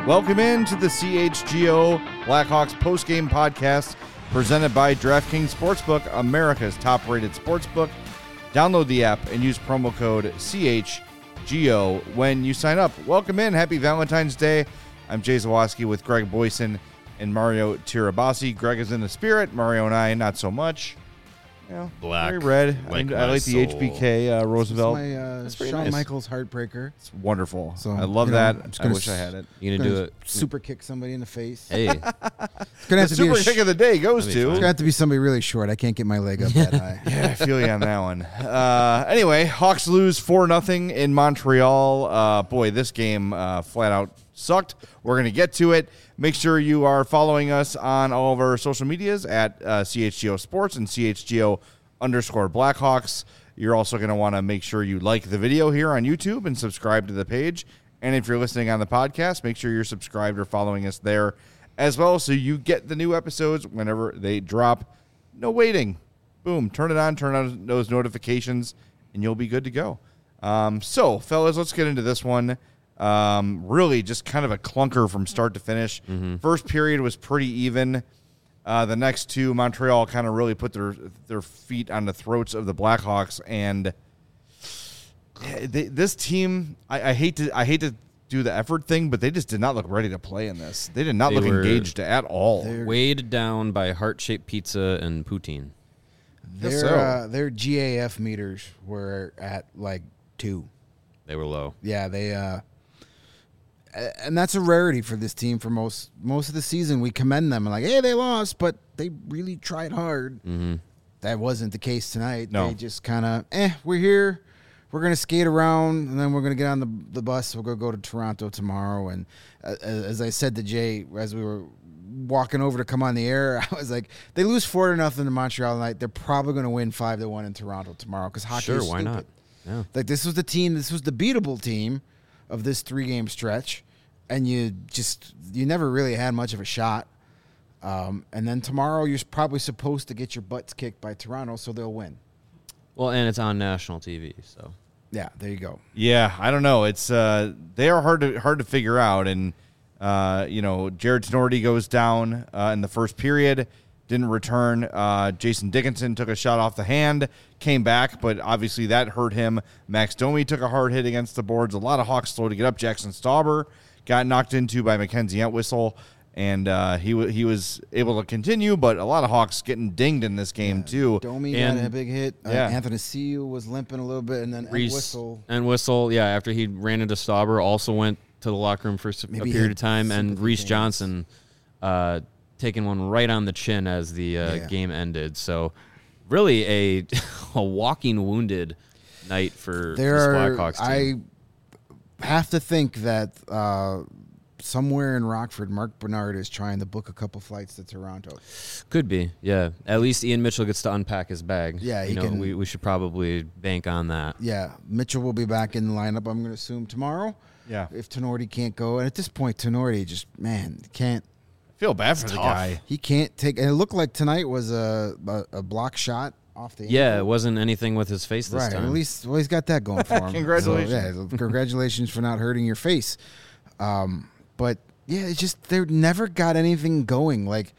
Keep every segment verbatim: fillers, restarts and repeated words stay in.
Welcome in to the C H G O Blackhawks postgame podcast presented by DraftKings Sportsbook, America's top-rated sportsbook. Download the app and use promo code C H G O when you sign up. Welcome in. Happy Valentine's Day. I'm Jay Zawoski with Greg Boyson and Mario Tirabassi. Greg is in the spirit. Mario and I, not so much. You know, Black. very red. Like I, I like soul. the H B K uh, Roosevelt. It's my uh, That's pretty Shawn nice. Michaels heartbreaker. It's wonderful. So, I love you know, that. I'm just I gonna wish I s- had it. You gonna Gonna do it? Super kick somebody in the face. Hey, It's gonna The have to be super a kick sh- of the day goes That'd be to. It's gonna have to be somebody really short. I can't get my leg up that high. Yeah, I feel you on that one. Uh, anyway, Hawks lose four nothing in Montreal. Uh, boy, this game uh, flat out sucked. We're going to get to it. Make sure you are following us on all of our social medias at uh, C H G O Sports and C H G O underscore Blackhawks. You're also going to want to make sure you like the video here on YouTube and subscribe to the page. And if you're listening on the podcast, make sure you're subscribed or following us there as well so you get the new episodes whenever they drop. No waiting. Boom, turn it on, turn on those notifications, and you'll be good to go. Um, so, fellas, let's get into this one. Um, really just kind of a clunker from start to finish. Mm-hmm. First period was pretty even. Uh, the next two, Montreal kind of really put their their feet on the throats of the Blackhawks, and they, this team, I, I hate to I hate to do the effort thing, but they just did not look ready to play in this. They did not They look were- engaged at all. They're- weighed down by heart-shaped pizza and poutine. Their so. uh, their G A F meters were at like two. They were low. Yeah, they uh, a- and that's a rarity for this team. For most most of the season, we commend them and like, hey, they lost, but they really tried hard. Mm-hmm. That wasn't the case tonight. No. They just kind of, eh, we're here. We're going to skate around, and then we're going to get on the the bus. We're going to go to Toronto tomorrow. And uh, as I said to Jay, as we were walking over to come on the air, I was like, they lose four to nothing to Montreal tonight. They're probably going to win five to one in Toronto tomorrow because hockey Sure, is why stupid. not? Yeah. Like, this was the team, this was the beatable team of this three-game stretch, and you just, you never really had much of a shot. Um, and then tomorrow, you're probably supposed to get your butts kicked by Toronto, so they'll win. Well, and it's on national T V, so. Yeah, there you go. Yeah, I don't know. It's uh, they are hard to hard to figure out, and uh, you know, Jared Tenorti goes down uh, in the first period, didn't return. Uh, Jason Dickinson took a shot off the hand, came back, but obviously that hurt him. Max Domi took a hard hit against the boards. A lot of Hawks slow to get up. Jackson Stauber got knocked into by Mackenzie Entwistle, and uh, he w- he was able to continue, but a lot of Hawks getting dinged in this game too. Domi And- got a big hit. Uh, yeah. Anthony Ciu was limping a little bit, and then Reese Whistle. and Whistle, yeah, after he ran into Stauber, also went to the locker room for s- a Maybe he period had of time, and sympathy Reese fans. Johnson uh, taking one right on the chin as the uh, Yeah. game ended. So, really a a walking wounded night for There this are, Blackhawks team. I have to think that uh, somewhere in Rockford, Mark Bernard is trying to book a couple flights to Toronto. Could be, yeah. At least Ian Mitchell gets to unpack his bag. Yeah, he you know, can- we, we should probably bank on that. Yeah, Mitchell will be back in the lineup, I'm going to assume, tomorrow. Yeah, If Tenorti can't go. And at this point, Tenorti just, man, can't. I feel bad for the tough. guy. He can't take. And it looked like tonight was a, a, a block shot off the Yeah, it ankle. wasn't anything with his face this Right, time. at least well, he's got that going for him. Congratulations. So, yeah, congratulations for not hurting your face. Um, but yeah, it's just they never got anything going. Like,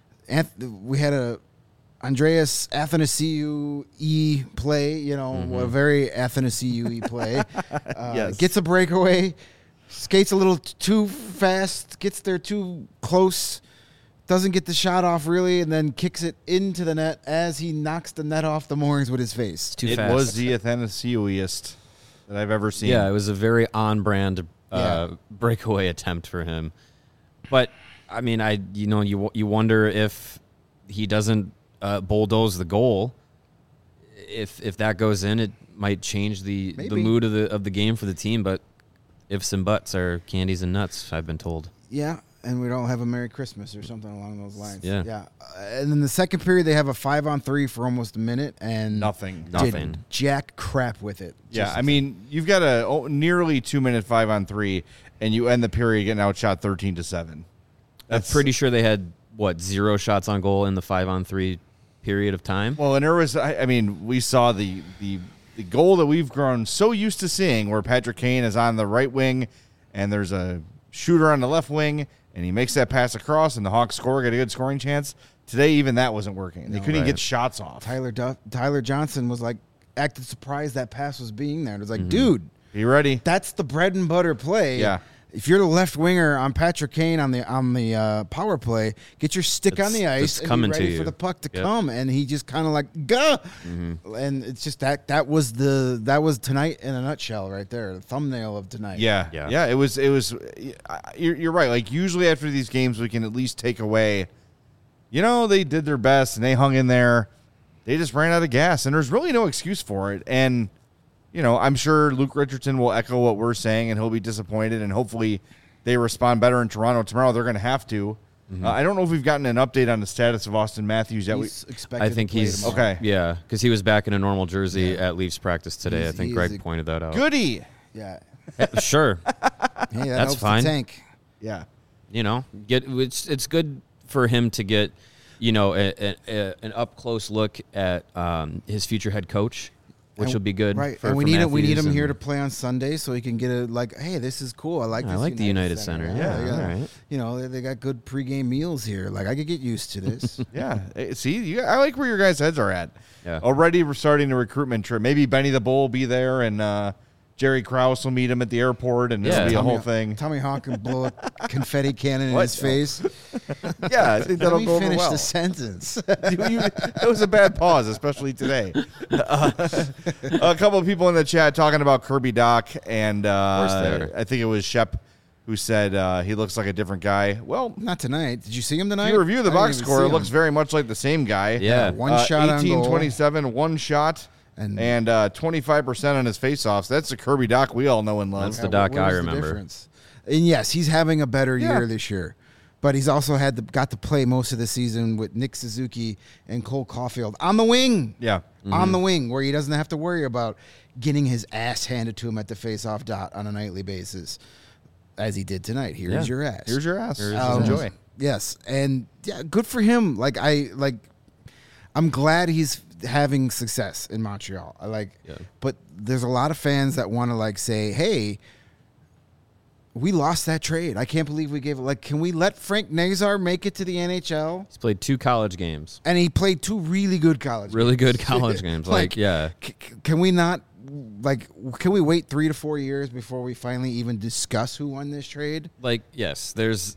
Anth- we had a Andreas Athanasiou E play, you know, Mm-hmm. a very Athanasiou E play. Uh, Yes. Gets a breakaway, skates a little t- too fast, gets there too close. Doesn't get the shot off really, and then kicks it into the net as he knocks the net off the moorings with his face. Too it fast. was the Athanasiouiest that I've ever seen. Yeah, it was a very on-brand uh, Yeah. breakaway attempt for him. But I mean, I you know you you wonder if he doesn't uh, bulldoze the goal. If if that goes in, it might change the, the Maybe. mood of the of the game for the team. But ifs and buts are candies and nuts. I've been told. Yeah, and we don't have a Merry Christmas or something along those lines. Yeah. Yeah. Uh, and then the second period, they have a five on three for almost a minute and Nothing. did Nothing. jack crap with it. Yeah, Just- I mean, you've got a oh, nearly two minute five on three, and you end the period getting outshot thirteen to seven. I'm pretty sure they had what zero shots on goal in the five on three period of time. Well, and there was, I, I mean, we saw the, the the goal that we've grown so used to seeing, where Patrick Kane is on the right wing, and there's a shooter on the left wing, and he makes that pass across, and the Hawks score, get a good scoring chance. Today, even that wasn't working. They No, couldn't right. get shots off. Tyler Duff, Tyler Johnson was like acted surprised that pass was being there. It was like, Mm-hmm. dude, Be ready. that's the bread and butter play. Yeah. If you're the left winger on Patrick Kane on the on the uh, power play, get your stick It's- on the ice it's and coming be to ready for you. the puck to Yep. come. And he just kind of like go, and it's just that that was the that was tonight in a nutshell right there, the thumbnail of tonight. Yeah, yeah, Yeah. It was. It was. You're, you're right. Like usually after these games, we can at least take away. You know, they did their best and they hung in there. They just ran out of gas, and there's really no excuse for it. And you know, I'm sure Luke Richardson will echo what we're saying, and he'll be disappointed. And hopefully, they respond better in Toronto tomorrow. They're going to have to. Uh, I don't know if we've gotten an update on the status of Austin Matthews yet. We, He's expected I think to play he's tomorrow. Okay. Yeah, because he was back in a normal jersey at Leafs practice today. He's- I think he's Greg a- pointed that out. goody. Yeah, Sure, hey, that That's helps fine. The tank. Yeah. you know, get it's it's good for him to get, you know, a, a, a, an up close look at um, his future head coach, which And- will be good. right? For, and we for need him. We need Matthews him here and- to play on Sunday, so he can get a like. Hey, this is cool. I like. I this like the United Center. Yeah, they all got- right. You know, they, they got good pregame meals here. Like I could get used to this. Yeah. Eh, See, you, I like where your guys' heads are at. Yeah. Already we're starting the recruitment trip. Maybe Benny the Bull will be there, and uh, Jerry Krause will meet him at the airport, and Yeah. it'll be a Tommy- whole thing. Tommy Hawk can blow a confetti cannon in What? his face. Yeah, I think that'll Let me go over finish well. the sentence. You- you- that was a bad pause, especially today. Uh, a couple of people in the chat talking about Kirby Doc, and course they uh, are. I think it was Shep who said uh, he looks like a different guy. Well, Not tonight. Did you see him tonight? if you review the I didn't box even score, see it him. looks very much like the same guy. Yeah. One Uh, shot on eighteen goal. twenty-seven, one shot, And- and uh, twenty-five percent on his faceoffs. That's the Kirby Doc we all know and love. That's the Yeah, Doc what I was the remember. difference? And yes, he's having a better Yeah. year this year. But he's also had the, got to play most of the season with Nick Suzuki and Cole Caulfield on the wing. Yeah. On the wing, where he doesn't have to worry about getting his ass handed to him at the faceoff dot on a nightly basis, as he did tonight. Here's Yeah. your ass. Here's your ass. Here's Um, Enjoy. Yes, and yeah, good for him. Like I like, I'm glad he's having success in Montreal. I like, Yeah. but there's a lot of fans that want to like say, "Hey, we lost that trade. I can't believe we gave it. Like, can we let Frank Nazar make it to the N H L?" He's played two college games. And he played two really good college, Really games. good college games. Like, yeah. C- c- can we not? Like, can we wait three to four years before we finally even discuss who won this trade? Like, yes, there's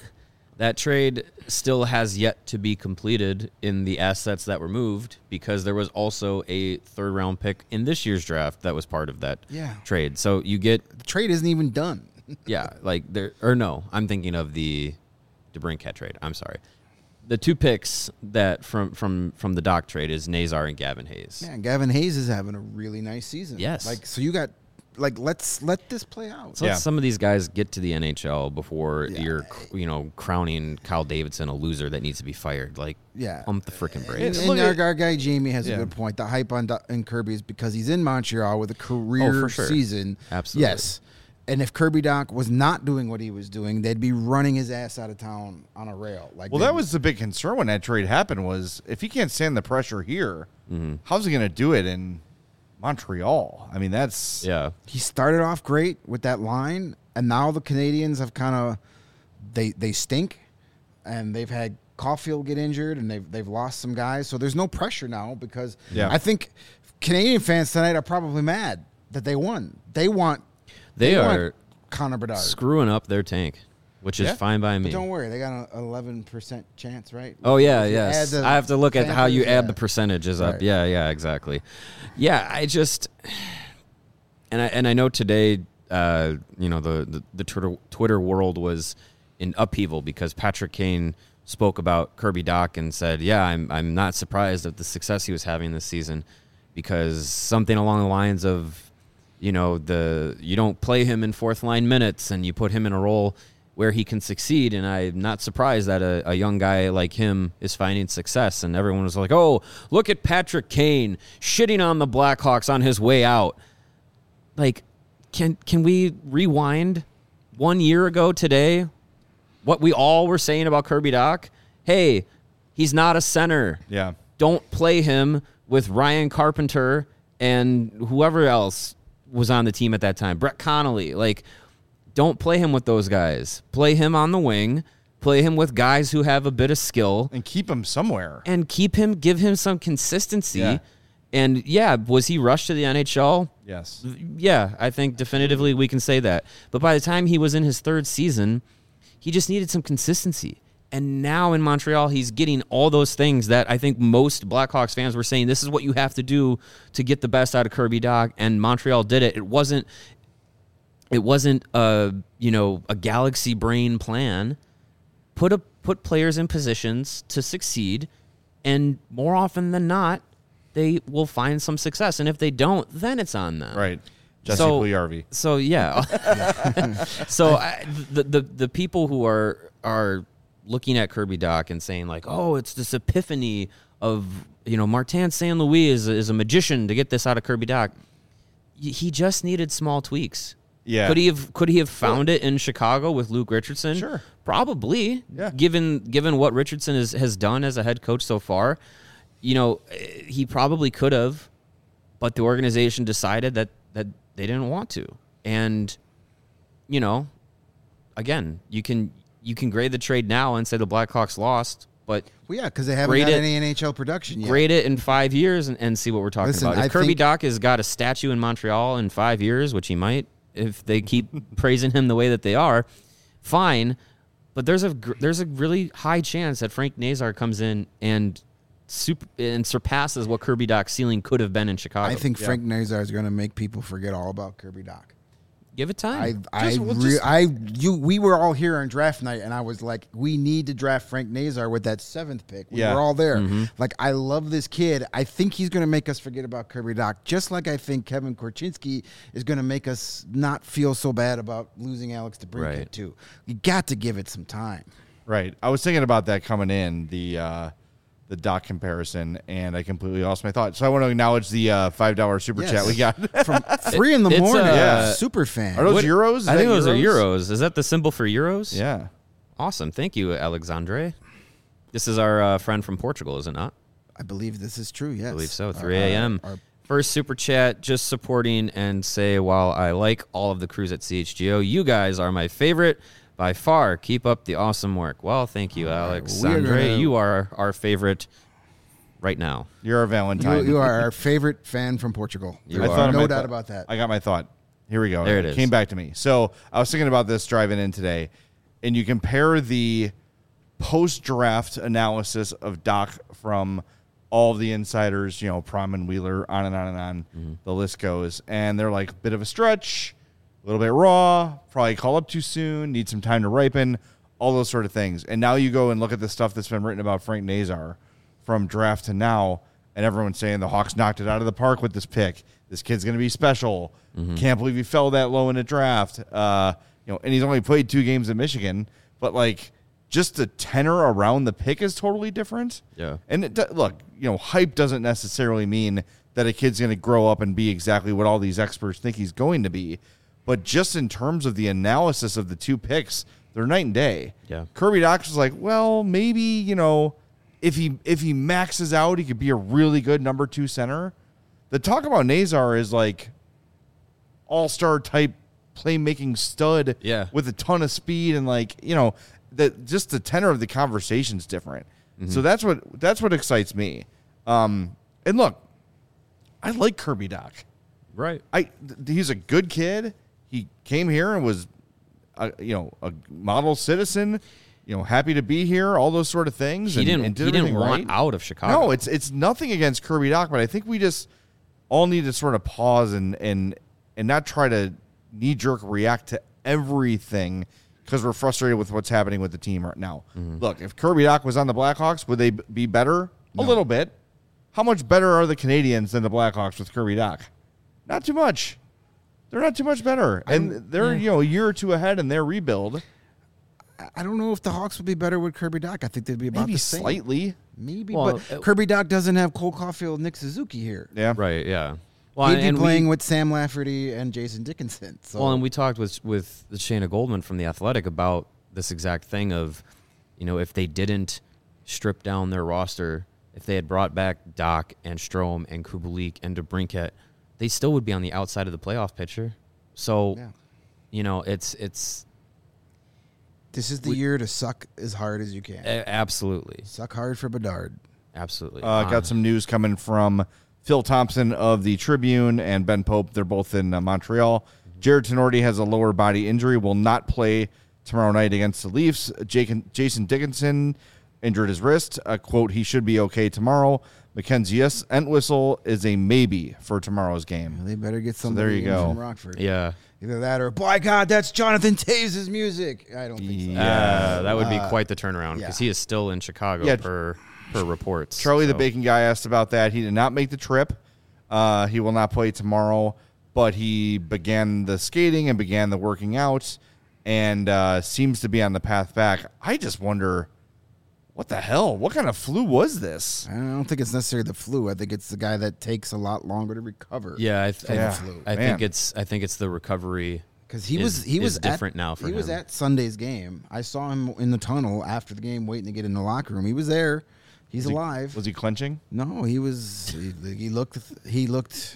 that trade still has yet to be completed in the assets that were moved, because there was also a third round pick in this year's draft that was part of that Yeah. trade. So you get, The trade isn't even done. yeah, like there, or no, I'm thinking of the DeBrincat trade. I'm sorry. The two picks that from from from the Doc trade is Nazar and Gavin Hayes. Man, Gavin Hayes is having a really nice season. Yes. Like, so you got, like, let's let this play out. So let Yeah. some of these guys get to the N H L before Yeah. you're, you know, crowning Kyle Davidson a loser that needs to be fired. Like, Yeah. pump the freaking And, brakes. and Look our, at- our guy Jamie has Yeah. a good point. The hype on, Do- on Kirby is because he's in Montreal with a career Oh, for sure. season. Absolutely. Yes. And if Kirby Doc was not doing what he was doing, they'd be running his ass out of town on a rail. Like, Well, they'd that be- was the big concern when that trade happened was if he can't stand the pressure here, Mm-hmm. how's he going to do it in Montreal? I mean, that's Yeah. he started off great with that line, and now the Canadians have kind of they they stink, and they've had Caulfield get injured, and they've they've lost some guys, so there's no pressure now because Yeah. I think Canadian fans tonight are probably mad that they won. They want They want are Connor Bedard. screwing up their tank, which is Yeah. fine by But me. don't worry, they got an eleven percent chance, right? Oh yeah, If you yes. add the I have to look at how you Panthers, add yeah. the percentages up. Right. Yeah, yeah, exactly. Yeah, I just and I and I know today, uh, you know, the the, the Twitter, Twitter world was in upheaval because Patrick Kane spoke about Kirby Doc and said, "Yeah, I'm I'm not surprised at the success he was having this season, because something along the lines of, you know, the you don't play him in fourth line minutes and you put him in a role where he can succeed." And I'm not surprised that a, a young guy like him is finding success. And everyone was like, "Oh, look at Patrick Kane shitting on the Blackhawks on his way out." Like, can can we rewind one year ago today? What we all were saying about Kirby Doc? Hey, he's not a center. yeah. Don't play him with Ryan Carpenter and whoever else was on the team at that time. Brett Connolly. Like, don't play him with those guys. Play him on the wing. Play him with guys who have a bit of skill. And keep him somewhere. And keep him, give him some consistency. Yeah. And, yeah, was he rushed to the N H L? Yes. Yeah, I think definitively we can say that. But by the time he was in his third season, he just needed some consistency. And now in Montreal, he's getting all those things that I think most Blackhawks fans were saying, this is what you have to do to get the best out of Kirby Dach. And Montreal did it. It wasn't, it wasn't a, you know, a galaxy brain plan. Put a, put players in positions to succeed, and more often than not, they will find some success. And if they don't, then it's on them. Right. Jesse So- Puljujarvi. So yeah. so I, the, the the people who are are looking at Kirby Dach and saying like, oh, it's this epiphany of, you know, Martin Saint Louis is is a magician to get this out of Kirby Dach. Y- He just needed small tweaks. Yeah. Could he have could he have found it in Chicago with Luke Richardson? Sure. Probably. Yeah. Given given what Richardson has, has done as a head coach so far, you know, eh, he probably could have, but the organization decided that that they didn't want to. And, you know, again, you can you can grade the trade now and say the Blackhawks lost, but Well, yeah, because they haven't Grade got it- any N H L production yet. grade it in five years and, and see what we're talking Listen, about. If I Kirby think- Dach has got a statue in Montreal in five years, which he might, if they keep praising him the way that they are, fine. But there's a gr- there's a really high chance that Frank Nazar comes in and super, and surpasses what Kirby Dach's ceiling could have been in Chicago. I think Frank Nazar is going to make people forget all about Kirby Dach. Give it time. I, I, Just- well, re- just- I, you, we were all here on draft night, and I was like, we need to draft Frank Nazar with that seventh pick. We Yeah. were all there. Mm-hmm. Like, I love this kid. I think he's going to make us forget about Kirby Dach, just like I think Kevin Korchinski is going to make us not feel so bad about losing Alex DeBrincat Right. too. You got to give it some time. Right. I was thinking about that coming in, the uh, the Doc comparison, and I completely lost my thought. So I want to acknowledge the uh, five dollar super Yes. chat we got. From three in the It's, morning. uh, Yeah. Super fan. Are those What- euros? Is I think that those are euros. Is that the symbol for euros? Yeah. Awesome. Thank you, Alexandre. This is our uh, friend from Portugal, is it not? I believe this is true, yes. I believe so. Our- three a.m. our- our- First super chat, just supporting and say, while I like all of the crews at C H G O, you guys are my favorite by far. Keep up the awesome work. Well, thank you, All right, Alex. we're Andre, gonna- you are our favorite right now. You're a Valentine. You, you are our favorite fan from Portugal. You There's are. thought of no my doubt thought- about that. I got my thought. Here we go. There it is. Came back to me. So I was thinking about this driving in today, and you compare the post-draft analysis of Doc from all the insiders, you know, Prom and Wheeler, on and on and on. Mm-hmm. The list goes, and they're like, bit of a stretch, a little bit raw, probably call up too soon, need some time to ripen, all those sort of things. And now you go and look at the stuff that's been written about Frank Nazar from draft to now, and everyone's saying the Hawks knocked it out of the park with this pick. This kid's going to be special. Can't believe he fell that low in a draft. Uh, you know, and he's only played two games in Michigan, but like just the tenor around the pick is totally different. Yeah. And it, do- look, you know, hype doesn't necessarily mean that a kid's going to grow up and be exactly what all these experts think he's going to be. But just in terms of the analysis of the two picks, they're night and day. Yeah. Kirby Dach was like, well, maybe, you know, if he if he maxes out, he could be a really good number two center. The talk about Nazar is like all-star type playmaking stud Yeah. with a ton of speed, and like, you know, that just the tenor of the conversation's different. So that's what that's what excites me. Um, and look, I like Kirby Dach. Right. I th- he's a good kid. He came here and was, a, you know, a model citizen. You know, happy to be here. All those sort of things. He and, didn't, and did he didn't everything want right. out of Chicago. No, it's it's nothing against Kirby Dach, but I think we just all need to sort of pause and and and not try to knee jerk react to everything because we're frustrated with what's happening with the team right now. Look, if Kirby Dach was on the Blackhawks, would they b- be better? A little bit. How much better are the Canadians than the Blackhawks with Kirby Dach? Not too much. They're not too much better, and they're you know a year or two ahead in their rebuild. I- I don't know if the Hawks would be better with Kirby Dach. I think they'd be about Maybe the same. slightly. Maybe, Well, but uh, Kirby Dach doesn't have Cole Caulfield, Nick Suzuki here. Yeah. Right, yeah. Well, He'd be and we- playing with Sam Lafferty and Jason Dickinson. So Well, and we talked with with Shayna Goldman from the Athletic about this exact thing of, you know, if they didn't strip down their roster, if they had brought back Doc and Strome and Kubelik and DeBrincat, they still would be on the outside of the playoff picture. So, Yeah. You know, it's it's This is the We- year to suck as hard as you can. a- absolutely, Suck hard for Bedard. absolutely. Uh, got some news coming from Phil Thompson of the Tribune and Ben Pope. They're both in uh, Montreal. Jared Tenorti has a lower body injury, will not play tomorrow night against the Leafs. Jake, Jason Dickinson injured his wrist. Uh, quote, he should be okay tomorrow. Mackenzie Entwistle is a maybe for tomorrow's game. They better get there somebody you in go. from Rockford. Yeah, Either that or, by God, that's Jonathan Taves' music. I don't think so. Yeah. uh, that would be Uh, quite the turnaround because yeah. he is still in Chicago Yeah. per per reports. Charlie the so. Bacon Guy asked about that. He did not make the trip. Uh, he will not play tomorrow, but he began the skating and began the working out and uh, seems to be on the path back. I just wonder, what the hell? What kind of flu was this? I don't think it's necessarily the flu. I think it's the guy that takes a lot longer to recover. Yeah, I, th- Yeah. I Man. think it's I think it's the recovery. Because he is- was he is was different at, now for he was him. at Sunday's game. I saw him in the tunnel after the game, waiting to get in the locker room. He was there. He's Was he- alive. Was he clenching? No, he was. He, he looked. He looked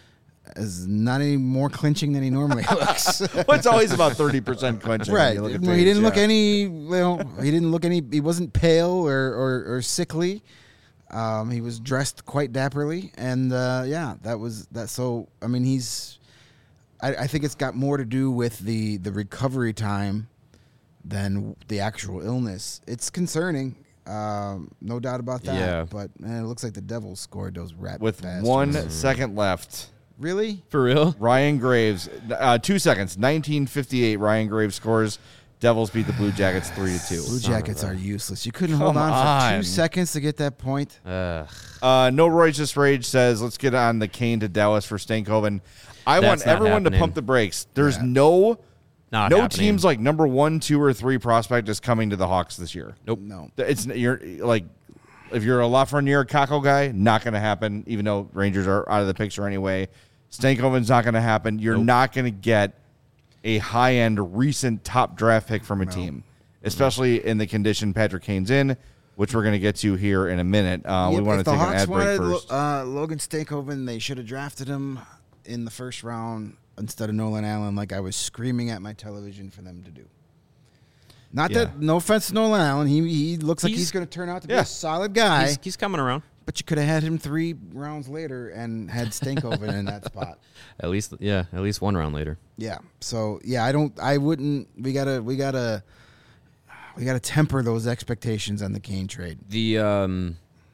as not any more clinching than he normally looks. Well, it's always about thirty percent clenching. when Right. you look at Well, he Taves, didn't look yeah. any. Well, he didn't look any. He wasn't pale or or, or sickly. Um, he was dressed quite dapperly, and uh, yeah, that was that. So I mean, he's. I, I think it's got more to do with the the recovery time than the actual illness. It's concerning, um, no doubt about that. Yeah. But man, it looks like the Devils scored those rat With bastards. one second left. Really? For real? Ryan Graves, uh, two seconds, nineteen fifty-eight. Ryan Graves scores. Devils beat the Blue Jackets three to two. Blue Jackets are useless. You couldn't Come hold on for on. two seconds to get that point. Ugh. Uh, no Righteous Rage says, let's get on the Kane to Dallas for Stankoven. I That's want not everyone happening. to pump the brakes. There's Yeah. no Not no happening. teams like number one, two, or three prospect is coming to the Hawks this year. Nope. No. It's you're like if you're a Lafreniere Kako guy, not going to happen. Even though Rangers are out of the picture anyway, Stankoven's not going to happen. You're Nope. not going to get a high end recent top draft pick from a team, especially in the condition Patrick Kane's in, which we're going to get to here in a minute. Uh, we Yep, want if to the take an Hawks ad break wanted first. uh, Logan Stankoven, they should have drafted him in the first round instead of Nolan Allen, like I was screaming at my television for them to do. Not Yeah. that, no offense to Nolan Allen, he he looks like He's- he's, going to turn out to be Yeah. a solid guy, He's, he's coming around. but you could have had him three rounds later and had Stankoven in that spot. At least, yeah, at least one round later. Yeah. So yeah, I don't. I wouldn't. We gotta. We gotta. We gotta temper those expectations on the Kane trade. The um,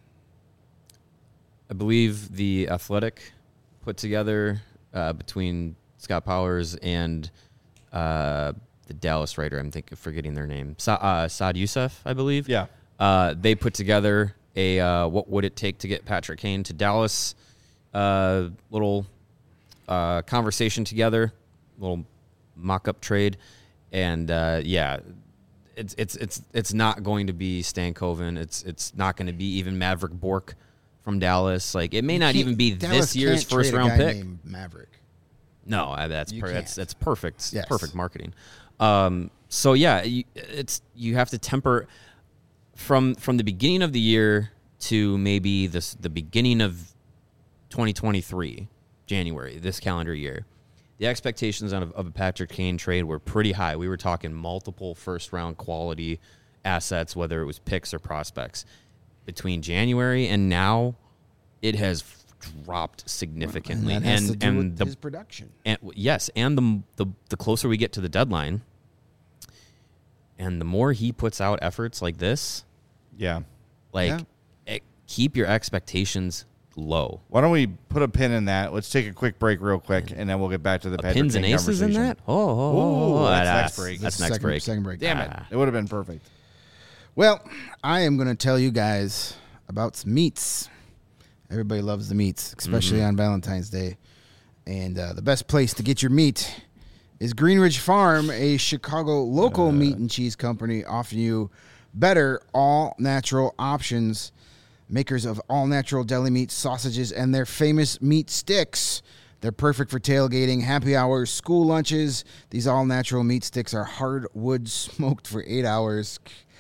I believe the Athletic put together uh, between Scott Powers and uh, the Dallas writer. I'm thinking forgetting their name. Sa- uh, Saad Youssef, I believe. Yeah. Uh, they put together a uh, what would it take to get Patrick Kane to Dallas? Uh, little uh, conversation together, little mock-up trade, and uh, yeah, it's it's it's it's not going to be Stankoven. It's it's not going to be even Maverick Bork from Dallas. Like it may not Can't- even be Dallas this year's can't trade first a round guy pick. named Maverick. No, I- that's You per- that's can't. that's perfect. Yes. Perfect marketing. Um, so yeah, you, it's you have to temper from from the beginning of the year to maybe this the beginning of twenty twenty-three, January, this calendar year. The expectations of, of a Patrick Kane trade were pretty high. We were talking multiple first round quality assets, whether it was picks or prospects. Between January and now, it has dropped significantly. And that has and to do and with the his production. and yes, and the, the the closer we get to the deadline, and the more he puts out efforts like this, Yeah. like Yeah. it, keep your expectations low. Why don't we put a pin in that? Let's take a quick break real quick, and then we'll get back to the Uh, Patrick pins and Kane aces in conversation. that? Oh, oh, oh, Ooh, oh, that's ah, next break. That's This is next second, break. Second break. Damn it. Ah. It would have been perfect. Well, I am going to tell you guys about some meats. Everybody loves the meats, especially Mm-hmm. on Valentine's Day. And uh, the best place to get your meat is Greenridge Farm, a Chicago local Uh. meat and cheese company offering you better all-natural options. Makers of all-natural deli meat, sausages, and their famous meat sticks. They're perfect for tailgating, happy hours, school lunches. These all-natural meat sticks are hardwood smoked for eight hours.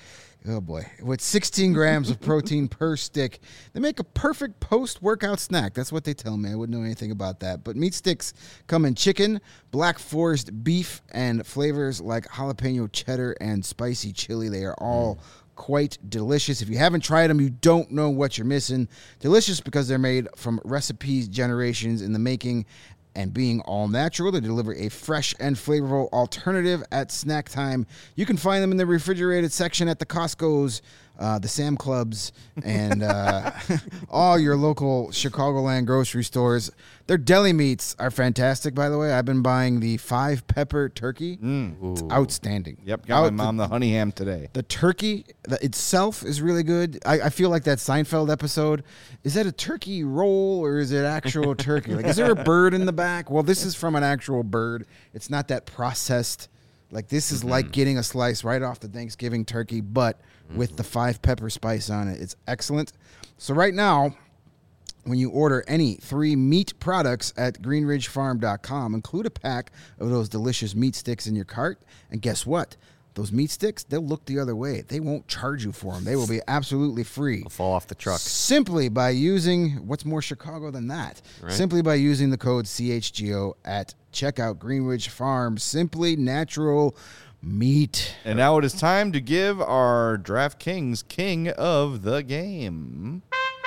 Oh, boy. With sixteen grams of protein per stick, they make a perfect post-workout snack. That's what they tell me. I wouldn't know anything about that. But meat sticks come in chicken, Black Forest beef, and flavors like jalapeno cheddar and spicy chili. They are all mm. quite delicious. If you haven't tried them, you don't know what you're missing. Delicious because they're made from recipes generations in the making. And being all natural, they deliver a fresh and flavorful alternative at snack time. You can find them in the refrigerated section at the Costco's, uh, the Sam Clubs, and uh, all your local Chicagoland grocery stores. Their deli meats are fantastic, by the way. I've been buying the five pepper turkey. Mm. It's outstanding. Yep, got Out, my mom the, the honey ham today. The turkey the, itself is really good. I, I feel like that Seinfeld episode. Is that a turkey roll or is it actual turkey? Like, is there a bird in the back? Well, this is from an actual bird. It's not that processed. Like, this is mm-hmm. like getting a slice right off the Thanksgiving turkey, but mm-hmm. with the five pepper spice on it. It's excellent. So right now, when you order any three meat products at green ridge farm dot com, include a pack of those delicious meat sticks in your cart. And guess what? Those meat sticks, they'll look the other way. They won't charge you for them. They will be absolutely free. They'll fall off the truck. Simply by using, what's more Chicago than that? Right. Simply by using the code C H G O at checkout. Greenridge Farm, simply natural meat. And now it is time to give our DraftKings king of the game.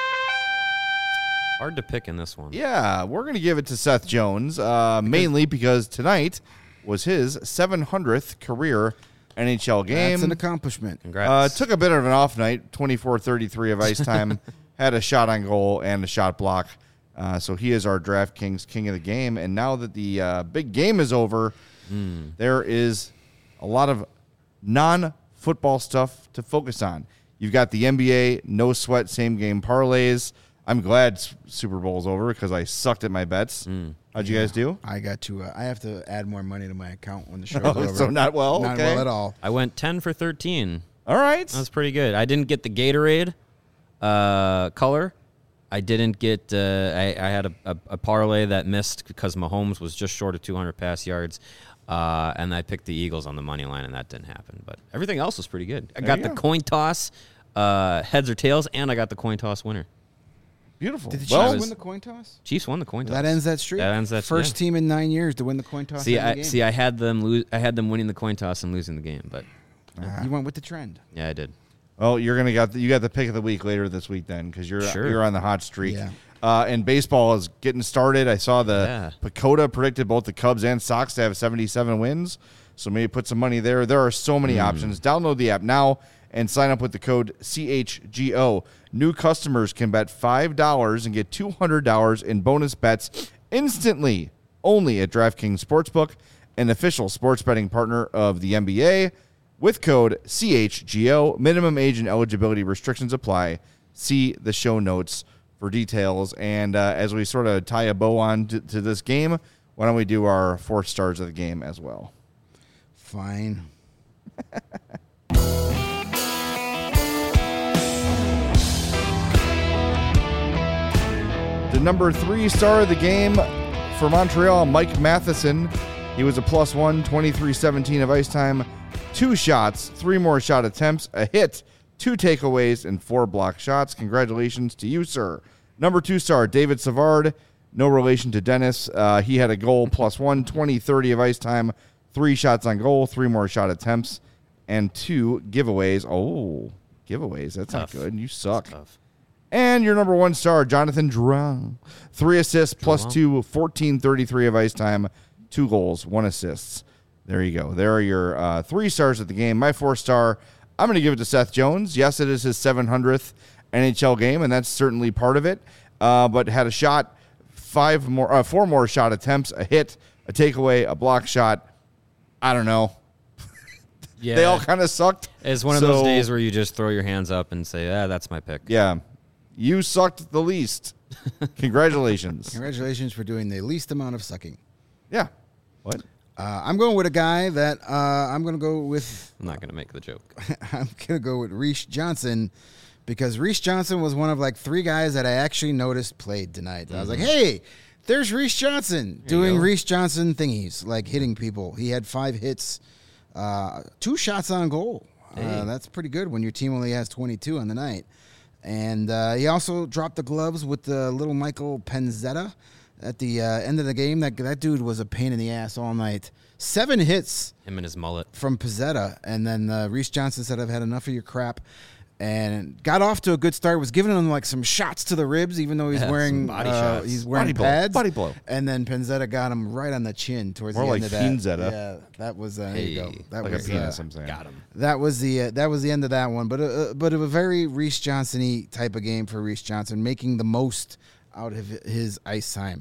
Hard to pick in this one. Yeah, we're going to give it to Seth Jones, uh, mainly because tonight was his seven hundredth career N H L game. That's an accomplishment. Congrats. Uh, took a bit of an off night, twenty-four thirty-three of ice time, had a shot on goal and a shot block. Uh, so he is our DraftKings king of the game. And now that the uh, big game is over, mm. there is a lot of non-football stuff to focus on. You've got the N B A, no sweat, same game parlays. I'm glad Super Bowl's over because I sucked at my bets. Mm. How'd you yeah, guys do? I got to. Uh, I have to add more money to my account when the show's oh, over. So not well. Not okay. well at all. I went ten for thirteen. All right, that was pretty good. I didn't get the Gatorade uh, color. I didn't get. Uh, I, I had a, a, a parlay that missed because Mahomes was just short of two hundred pass yards, uh, and I picked the Eagles on the money line, and that didn't happen. But everything else was pretty good. I there got the go. coin toss, uh, heads or tails, and I got the coin toss winner. Beautiful. Did the Chiefs well, win the coin toss? Chiefs won the coin toss. That ends that streak. That ends that first yeah. team in nine years to win the coin toss. See, in the I game. see. I had them lose. I had them winning the coin toss and losing the game, but uh, you went with the trend. yeah, I did. Well, you're gonna got the, you got the pick of the week later this week then because you're Sure. you're on the hot streak. Yeah. Uh, and baseball is getting started. I saw the Yeah. Pacoda predicted both the Cubs and Sox to have seventy-seven wins, so maybe put some money there. There are so many mm. options. Download the app now and sign up with the code C H G O. New customers can bet five dollars and get two hundred dollars in bonus bets instantly only at DraftKings Sportsbook, an official sports betting partner of the N B A. With code C H G O, minimum age and eligibility restrictions apply. See the show notes for details. And uh, as we sort of tie a bow on to, to this game, why don't we do our four stars of the game as well? Fine. The number three star of the game for Montreal, Mike Matheson. He was a plus one, twenty-three seventeen of ice time, two shots, three more shot attempts, a hit, two takeaways, and four block shots. Congratulations to you, sir. Number two star, David Savard. No relation to Dennis. Uh, he had a goal, plus one, twenty thirty of ice time, three shots on goal, three more shot attempts, and two giveaways. Oh, giveaways. That's Tough. not good. You suck. Tough. And your number one star, Jonathan Drouin. Three assists, plus two, fourteen thirty-three of ice time, two goals, one assists. There you go. There are your uh, three stars of the game. My four star, I'm going to give it to Seth Jones. Yes, it is his seven hundredth N H L game, and that's certainly part of it. Uh, but had a shot, five more, uh, four more shot attempts, a hit, a takeaway, a block shot. I don't know. Yeah, They all kind of sucked. It's one of So- those days where you just throw your hands up and say, "Ah, that's my pick." Yeah. You sucked the least. Congratulations. Congratulations for doing the least amount of sucking. Yeah. What? Uh, I'm going with a guy that uh, I'm going to go with. I'm not going to make the joke. I'm going to go with Reese Johnson because Reese Johnson was one of like three guys that I actually noticed played tonight. Mm-hmm. I was like, hey, there's Reese Johnson There doing Reese Johnson thingies, like hitting people. He had five hits, uh, two shots on goal. Uh, Hey. that's pretty good when your team only has twenty-two on the night. And uh, he also dropped the gloves with the little Michael Penzetta at the uh, end of the game. That that dude was a pain in the ass all night. Seven hits Him and his mullet. from Pizzetta, and then uh, Reese Johnson said, "I've had enough of your crap," and got off to a good start. Was giving him like some shots to the ribs, even though he's Yeah, wearing some body uh, shots. he's wearing Body blow. pads. Body blow. And then Penzetta got him right on the chin towards More the like end of that. Finzetta. Yeah, that was uh, there you go. Hey, That Like was a penis, uh, I'm saying. Got him. that was the uh, that was the end of that one. But uh, but a very Reese Johnson-y type of game for Reese Johnson, making the most out of his ice time.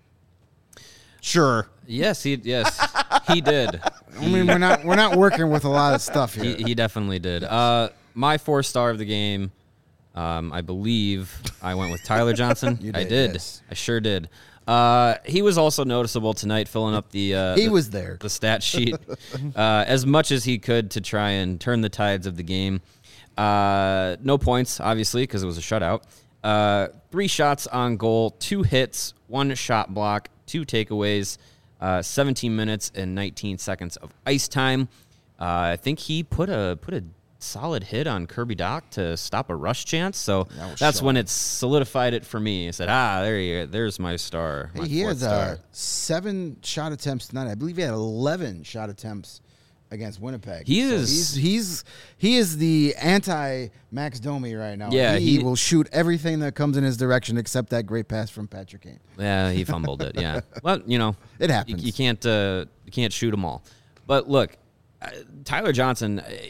Sure. Yes, he yes he did. I mean, we're not we're not working with a lot of stuff here. He, he definitely did. Uh, my four star of the game, um, I believe I went with Tyler Johnson. You I did, did. yes. I sure did. Uh, he was also noticeable tonight, filling up the uh, He the, was there. the stat sheet uh, as much as he could to try and turn the tides of the game. Uh, no points, obviously, because it was a shutout. Uh, three shots on goal, two hits, one shot block, two takeaways, uh, seventeen minutes and nineteen seconds of ice time. Uh, I think he put a put a solid hit on Kirby Doc to stop a rush chance. So That was that's sharp. when it solidified it for me. I said, ah, there you go. There's my star. Hey, my he fourth had uh, star. seven shot attempts tonight. I believe he had eleven shot attempts against Winnipeg. He So is- he's, he's he is the anti Max Domi right now. Yeah, he, he- will shoot everything that comes in his direction except that great pass from Patrick Kane. Yeah, he fumbled it. Yeah, well, you know, It You, happens. you can't uh, you can't shoot them all. But look, uh, Tyler Johnson, uh,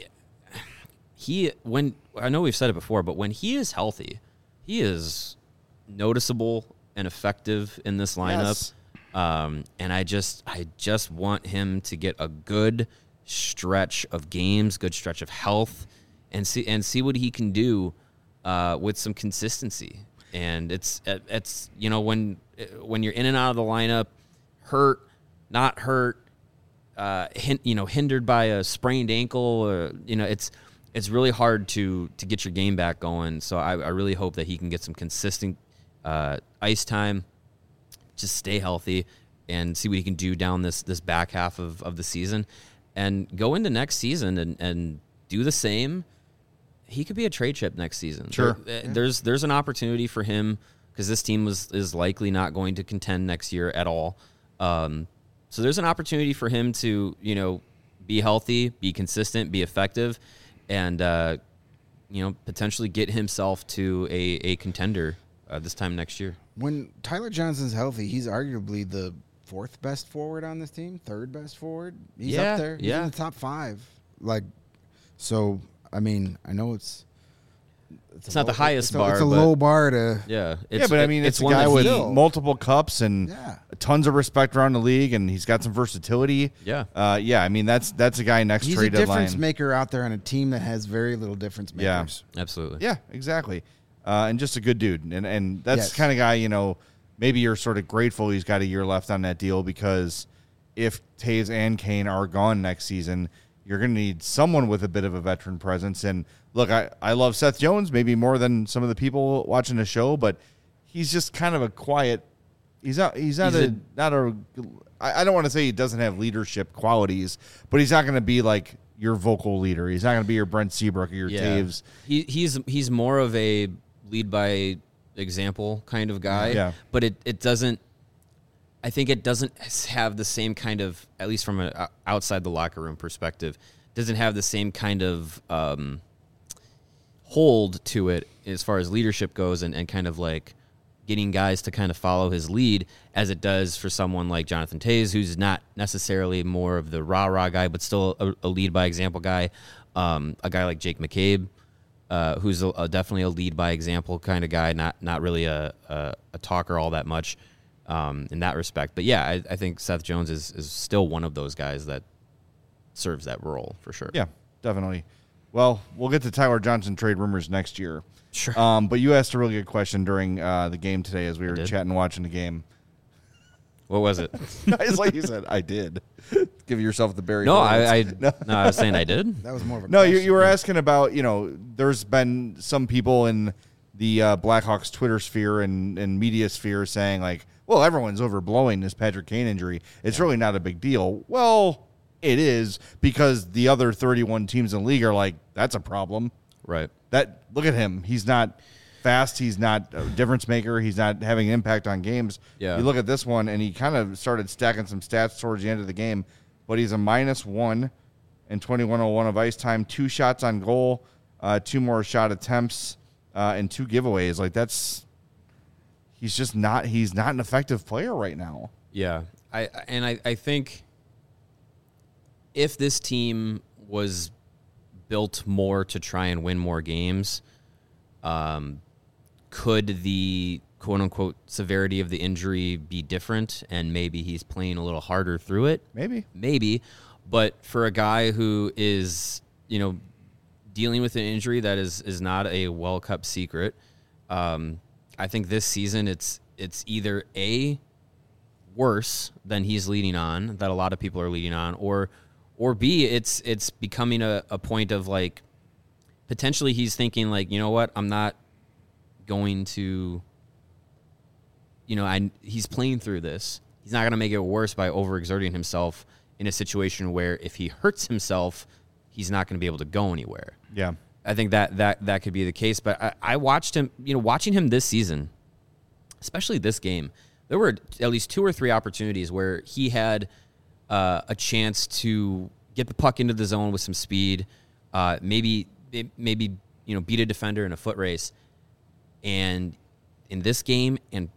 he when I know we've said it before, but when he is healthy, he is noticeable and effective in this lineup. Yes. Um, and I just I just want him to get a good stretch of games, good stretch of health, and see and see what he can do uh, with some consistency. And it's it's you know when when you're in and out of the lineup, hurt, not hurt, uh, hin- you know hindered by a sprained ankle, or you know it's it's really hard to to get your game back going. So I, I really hope that he can get some consistent uh, ice time. Just stay healthy and see what he can do down this this back half of, of the season and go into next season and, and do the same. He could be a trade chip next season. Sure. There- there's there's an opportunity for him because this team was is likely not going to contend next year at all. Um, so there's an opportunity for him to, you know, be healthy, be consistent, be effective, and uh, you know, potentially get himself to a, a contender uh, this time next year. When Tyler Johnson's healthy, he's arguably the fourth best forward on this team, third best forward. He's Yeah, up there. He's yeah. in the top five. Like, so I mean, I know it's It's a not the low- highest it's a, bar, It's a but- low bar to. Yeah, yeah, but I mean, it's, a guy that with he- Still. multiple cups and Yeah. tons of respect around the league, and he's got some versatility. Yeah. uh, yeah. I mean, that's that's a guy next He's a trade difference deadline. maker out there on a team that has very little difference Yeah. makers. Absolutely. Yeah, exactly. Uh, and just a good dude. And and that's Yes. the kind of guy, you know, maybe you're sort of grateful he's got a year left on that deal because if Taves and Kane are gone next season, you're going to need someone with a bit of a veteran presence. And look, I, I love Seth Jones maybe more than some of the people watching the show, but he's just kind of a quiet. He's not. He's not He's a, a- not a. I I don't want to say he doesn't have leadership qualities, but he's not going to be like your vocal leader. He's not going to be your Brent Seabrook or your Yeah. Taves. He he's he's more of a lead by example kind of guy. Yeah. But it, it doesn't I think it doesn't have the same kind of, at least from an outside the locker room perspective, doesn't have the same kind of um, hold to it as far as leadership goes and, and kind of like getting guys to kind of follow his lead as it does for someone like Jonathan Taves, who's not necessarily more of the rah-rah guy, but still a, a lead by example guy. Um, a guy like Jake McCabe, uh, who's a, a definitely a lead by example kind of guy, not not really a, a, a talker all that much um, in that respect. But yeah, I, I think Seth Jones is, is still one of those guys that serves that role for sure. Yeah, definitely. Well, we'll get to Tyler Johnson trade rumors next year. Sure. Um, but you asked a really good question during uh, the game today as we were did. chatting, watching the game. What was it? It's like you said, I did. Give yourself the Barry. No, Horowitz. I, I no. I was saying I did. That was more of a No, you, question. you were asking about, you know, there's been some people in the uh, Blackhawks Twitter sphere and, and media sphere saying, like, well, everyone's overblowing this Patrick Kane injury. It's really not a big deal. Well, it is because the other thirty-one teams in the league are like, that's a problem. Right. That look at him. He's not fast. He's not a difference maker. He's not having an impact on games. Yeah. You look at this one, and he kind of started stacking some stats towards the end of the game, but he's a minus one and twenty-one oh one of ice time, two shots on goal, uh, two more shot attempts, uh, and two giveaways. Like that's he's just not he's not an effective player right now. Yeah. I and I, I think if this team was built more to try and win more games, um, could the quote-unquote severity of the injury be different, and maybe he's playing a little harder through it? Maybe. Maybe. But for a guy who is, you know, dealing with an injury that is, is not a well-kept secret, um, I think this season it's it's either A, worse than he's leading on, that a lot of people are leading on, or or B, it's it's becoming a, a point of like potentially he's thinking like, you know what, I'm not going to, you know, I he's playing through this. He's not going to make it worse by overexerting himself in a situation where if he hurts himself, he's not going to be able to go anywhere. Yeah. I think that that that could be the case. But I, I watched him, you know, watching him this season, especially this game, there were at least two or three opportunities where he had uh, a chance to get the puck into the zone with some speed, uh, maybe maybe you know beat a defender in a foot race, and in this game and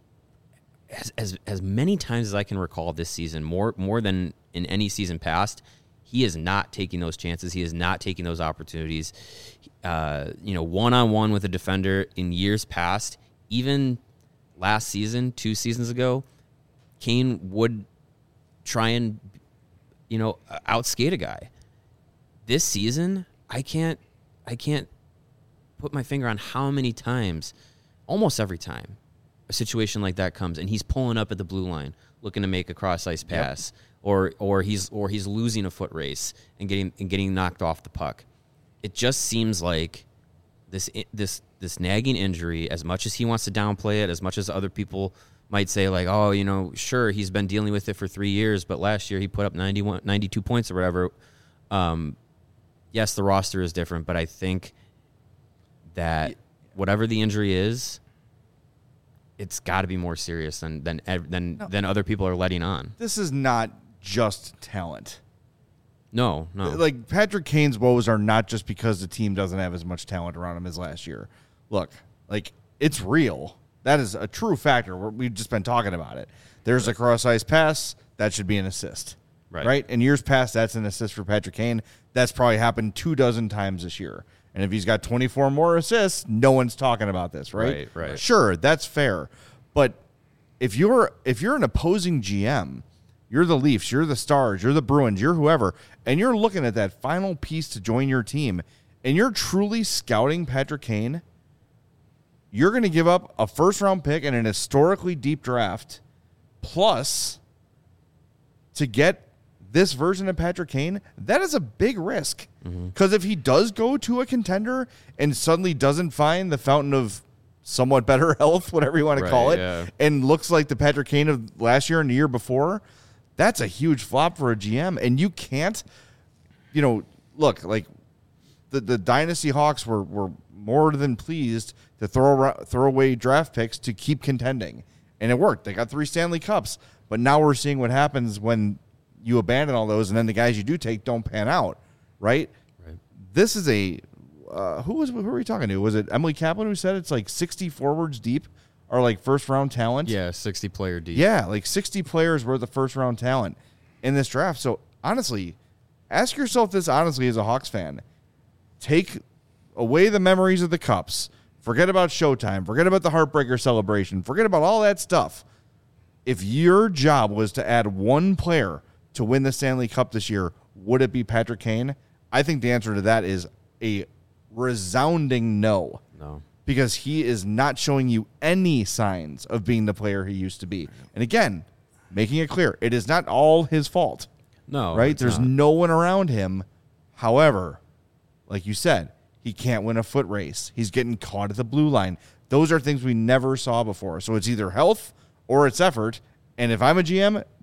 as as as many times as I can recall this season, more more than in any season past, he is not taking those chances. He is not taking those opportunities. Uh, you know, one on one with a defender in years past, even last season, two seasons ago, Kane would try and, you know, outskate a guy. This season, I can't, I can't put my finger on how many times, almost every time, a situation like that comes and he's pulling up at the blue line, looking to make a cross ice pass, yep. or or he's or he's losing a foot race and getting and getting knocked off the puck. It just seems like this this this nagging injury, as much as he wants to downplay it, as much as other people might say like, oh, you know, sure, he's been dealing with it for three years, but last year he put up ninety-one, ninety-two points or whatever. Um, yes, the roster is different, but I think that whatever the injury is, it's got to be more serious than than than no. than other people are letting on. This is not just talent. No, no. Like, Patrick Kane's woes are not just because the team doesn't have as much talent around him as last year. Look, like, it's real. That is a true factor. We're, we've just been talking about it. There's a cross-ice pass. That should be an assist. Right. Right? In years past, that's an assist for Patrick Kane. That's probably happened two dozen times this year. And if he's got twenty-four more assists, no one's talking about this, right? Right, right. Sure, that's fair. But if you're if you're an opposing G M, you're the Leafs, you're the Stars, you're the Bruins, you're whoever, and you're looking at that final piece to join your team, and you're truly scouting Patrick Kane, you're going to give up a first-round pick and an historically deep draft, plus to get this version of Patrick Kane, that is a big risk. Because mm-hmm. if he does go to a contender and suddenly doesn't find the fountain of somewhat better health, whatever you want to right, call it, yeah. and looks like the Patrick Kane of last year and the year before, that's a huge flop for a G M. And you can't, you know, look, like the, the Dynasty Hawks were, were more than pleased to throw, throw away draft picks to keep contending. And it worked. They got three Stanley Cups. But now we're seeing what happens when you abandon all those and then the guys you do take don't pan out, right? Right. This is a uh, who was who were we talking to? Was it Emily Kaplan who said it's like sixty forwards deep are like first round talent? Yeah, sixty player deep. Yeah, like sixty players worth of first round talent in this draft. So honestly, ask yourself this honestly as a Hawks fan. Take away the memories of the Cups. Forget about Showtime. Forget about the Heartbreaker celebration. Forget about all that stuff. If your job was to add one player to win the Stanley Cup this year, would it be Patrick Kane? I think the answer to that is a resounding no. No. Because he is not showing you any signs of being the player he used to be. And again, making it clear, it is not all his fault. No. Right? There's not. no one around him. However, like you said, he can't win a foot race. He's getting caught at the blue line. Those are things we never saw before. So it's either health or it's effort. And if I'm a G M,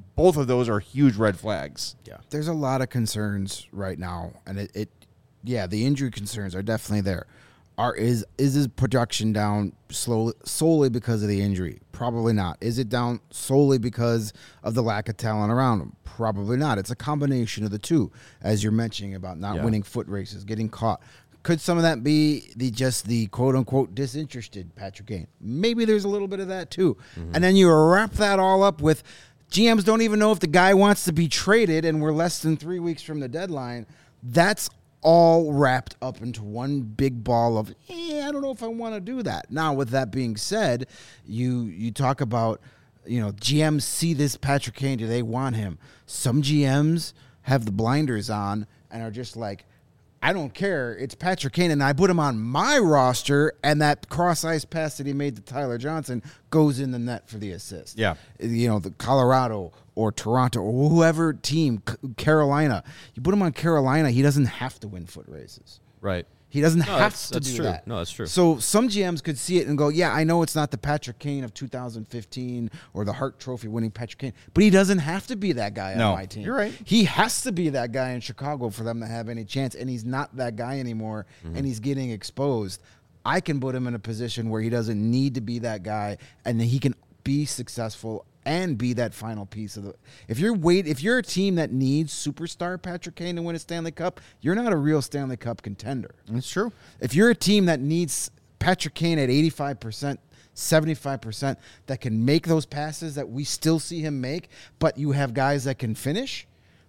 both of those are huge red flags. Yeah. There's a lot of concerns right now, and it, it yeah, the injury concerns are definitely there. Are is is his production down slowly solely because of the injury? Probably not. Is it down solely because of the lack of talent around him? Probably not. It's a combination of the two, as you're mentioning about not Yeah. winning foot races, getting caught. Could some of that be the just the quote unquote disinterested Patrick Kane? Maybe there's a little bit of that too. Mm-hmm. And then you wrap that all up with G Ms don't even know if the guy wants to be traded, and we're less than three weeks from the deadline. That's all wrapped up into one big ball of, eh, I don't know if I want to do that. Now, with that being said, you you talk about, you know, G Ms see this Patrick Kane. Do they want him? Some G Ms have the blinders on and are just like, I don't care. It's Patrick Kane, and I put him on my roster, and that cross-ice pass that he made to Tyler Johnson goes in the net for the assist. Yeah. You know, the Colorado or Toronto or whoever team, C- Carolina. You put him on Carolina, he doesn't have to win foot races. Right. He doesn't No, have that's- to that's do true. that. No, that's true. So some G Ms could see it and go, yeah, I know it's not the Patrick Kane of two thousand fifteen or the Hart Trophy winning Patrick Kane, but he doesn't have to be that guy No, on my team. you're right. He has to be that guy in Chicago for them to have any chance, and he's not that guy anymore, Mm-hmm. and he's getting exposed. I can put him in a position where he doesn't need to be that guy, and he can be successful and be that final piece of the. If you're wait, if you're a team that needs superstar Patrick Kane to win a Stanley Cup, you're not a real Stanley Cup contender. It's true. If you're a team that needs Patrick Kane at eighty-five percent, seventy-five percent, that can make those passes that we still see him make, but you have guys that can finish,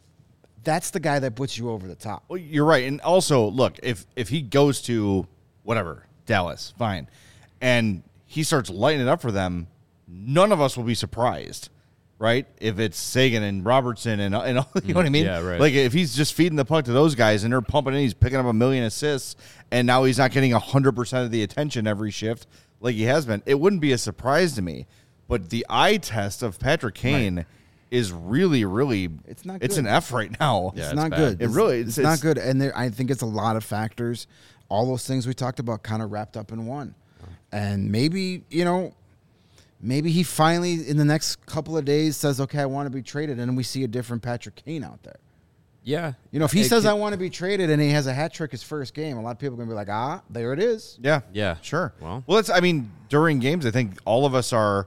that's the guy that puts you over the top. Well, you're right. And also, look, if if he goes to whatever, Dallas, fine, and he starts lighting it up for them, none of us will be surprised, right? If it's Sagan and Robertson and, and all, you know what I mean? Yeah, right. Like if he's just feeding the puck to those guys and they're pumping in, he's picking up a million assists, and now he's not getting one hundred percent of the attention every shift like he has been, it wouldn't be a surprise to me. But the eye test of Patrick Kane right. is really, really, it's not. It's good. an F right now. Yeah, it's, it's not bad. good. It It's, really, it's, it's, not it's, good. And there, I think it's a lot of factors. All those things we talked about kind of wrapped up in one. And maybe, you know, maybe he finally in the next couple of days says, okay, I want to be traded. And we see a different Patrick Kane out there. Yeah. You know, if he It says could- I want to be traded and he has a hat trick his first game, a lot of people are going to be like, ah, there it is. Yeah. Yeah. Sure. Well. well, it's, I mean, during games, I think all of us are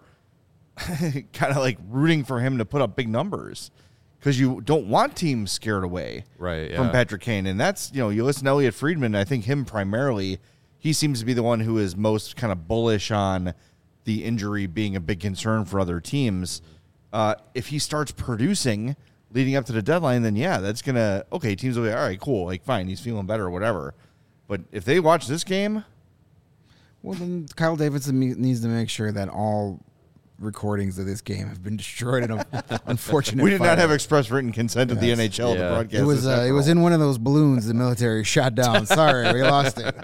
kind of like rooting for him to put up big numbers because you don't want teams scared away Right, from yeah. Patrick Kane. And that's, you know, you listen to Elliot Friedman, and I think him primarily, he seems to be the one who is most kind of bullish on the injury being a big concern for other teams. Uh, if he starts producing leading up to the deadline, then yeah, that's going to, okay, teams will be, all right, cool, like fine, he's feeling better or whatever. But if they watch this game, Well, then Kyle Davidson me- needs to make sure that all recordings of this game have been destroyed in a unfortunate we did not fire. have express written consent of the Yes. N H L to Yeah. broadcast. It was this uh, it was after in one of those balloons the military shot down. Sorry, we lost it.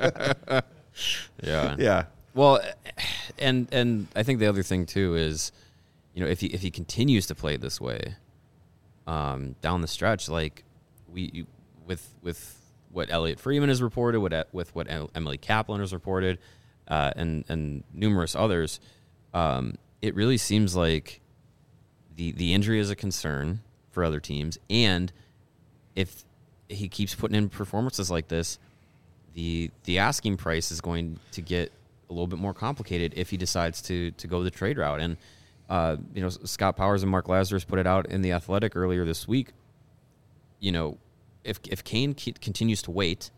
Yeah. all. Yeah. Well, and and I think the other thing too is, you know, if he if he continues to play this way, um, down the stretch, like we you, with with what Elliot Freeman has reported, what with what Emily Kaplan has reported, uh, and and numerous others, um, it really seems like the the injury is a concern for other teams, and if he keeps putting in performances like this, the the asking price is going to get a little bit more complicated if he decides to to go the trade route. And uh, you know, Scott Powers and Mark Lazarus put it out in The Athletic earlier this week. You know, if if Kane c- continues to wait,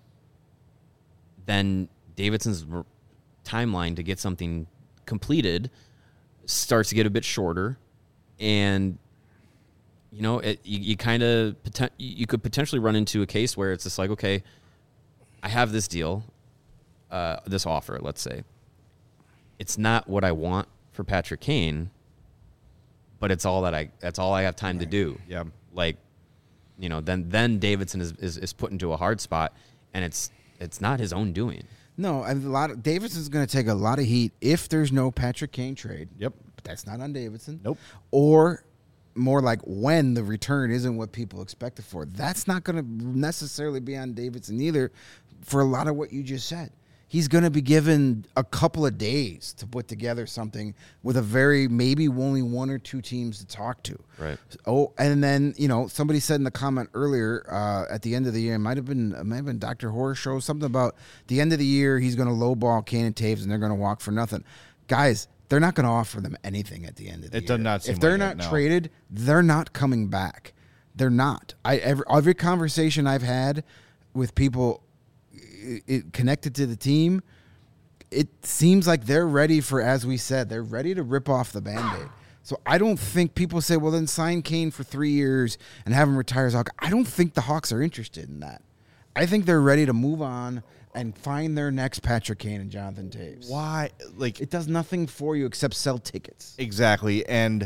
then Davidson's r- timeline to get something completed starts to get a bit shorter, and you know, it, you, you kind of poten- you could potentially run into a case where it's just like, okay, I have this deal, uh, this offer, let's say. It's not what I want for Patrick Kane, but it's all that I that's all I have time to do. Yeah. Like, you know, then then Davidson is, is, is put into a hard spot, and it's it's not his own doing. No, a lot of Davidson's going to take a lot of heat if there's no Patrick Kane trade. Yep. But that's not on Davidson. Nope. Or more like when the return isn't what people expected for. That's not going to necessarily be on Davidson either for a lot of what you just said. he's going to be given a couple of days to put together something with a very maybe only one or two teams to talk to. Right. Oh, and then you know somebody said in the comment earlier uh, at the end of the year, it might have been it might have been Doctor Horror Show, something about the end of the year he's going to lowball Kane and Taves and they're going to walk for nothing. Guys, they're not going to offer them anything at the end of the It year. does not seem if they're like not it, no. traded, they're not coming back. They're not. I every, every conversation I've had with people it, it connected to the team, it seems like they're ready for, as we said, they're ready to rip off the Band-Aid. So I don't think people say, well, then sign Kane for three years and have him retire as Hawk. I don't think the Hawks are interested in that. I think they're ready to move on and find their next Patrick Kane and Jonathan Taves. Why? Like, It does nothing for you except sell tickets. exactly. And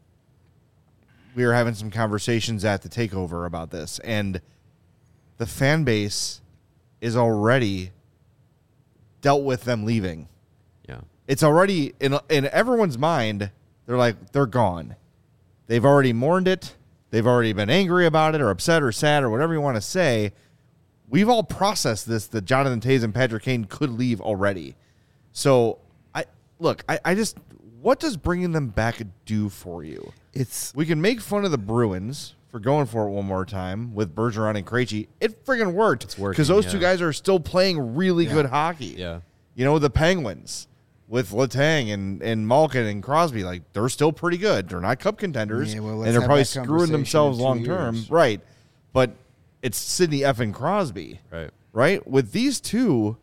we were having some conversations at the takeover about this, and the fan base is already dealt with them leaving. Yeah. It's already in in everyone's mind. They're like, they're gone. They've already mourned it. They've already been angry about it or upset or sad or whatever you want to say. We've all processed this, that Jonathan Taves and Patrick Kane could leave already. So, I look, I, I just, what does bringing them back do for you? It's We can make fun of the Bruins for going for it one more time with Bergeron and Krejci. It friggin' worked. It's working, because those yeah. two guys are still playing really Yeah. good hockey. Yeah. You know, the Penguins with Letang and, and Malkin and Crosby, like, they're still pretty good. They're not cup contenders, Yeah, well, let's and they're have probably that screwing conversation themselves in two long term. years. Right. But it's Sidney effing Crosby. Right. Right? With these two,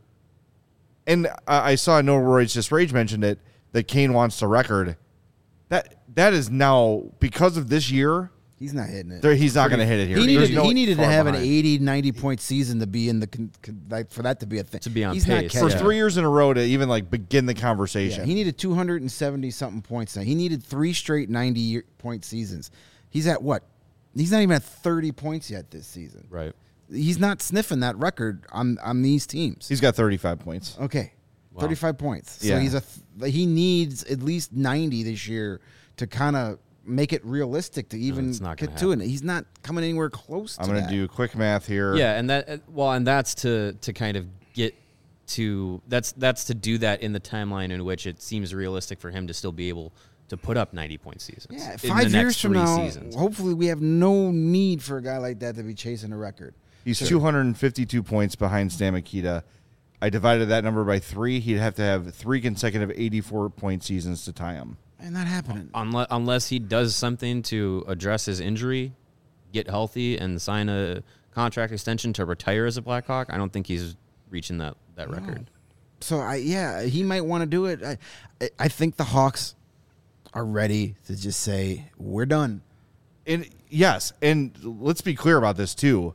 and I, I saw No Roy's Just Rage mentioned it, that Kane wants the record. That That is now, because of this year, he's not hitting it. there, he's not going to hit it here. He There's needed, no he needed to far have behind. an eighty, ninety point season to be in the con, con, like for that to be a thing. To be on he's pace, Not For catching yeah. three years in a row to even like begin the Yeah, conversation. he needed two hundred seventy something points now. He needed three straight ninety year, point seasons. He's at what? He's not even at thirty points yet this season. Right. He's not sniffing that record on on these teams. He's got thirty-five points. Okay, Wow. thirty-five points. So Yeah. he's a th- he needs at least ninety this year to kind of make it realistic to even it's not gonna get to it. He's not coming anywhere close. I'm to going that. to do quick math here. Yeah, and that uh, well, and that's to to kind of get to that's that's to do that in the timeline in which it seems realistic for him to still be able to put up ninety point seasons. Yeah, in five the years next from three now, seasons. hopefully we have no need for a guy like that to be chasing a record. He's two hundred fifty-two points behind Stan Mikita. I divided that number by three. He'd have to have three consecutive eighty-four point seasons to tie him. And not happening. Unless unless he does something to address his injury, get healthy, and sign a contract extension to retire as a Blackhawk, I don't think he's reaching that that record. So I yeah, he might want to do it. I I- I think the Hawks are ready to just say we're done. And yes, and let's be clear about this too.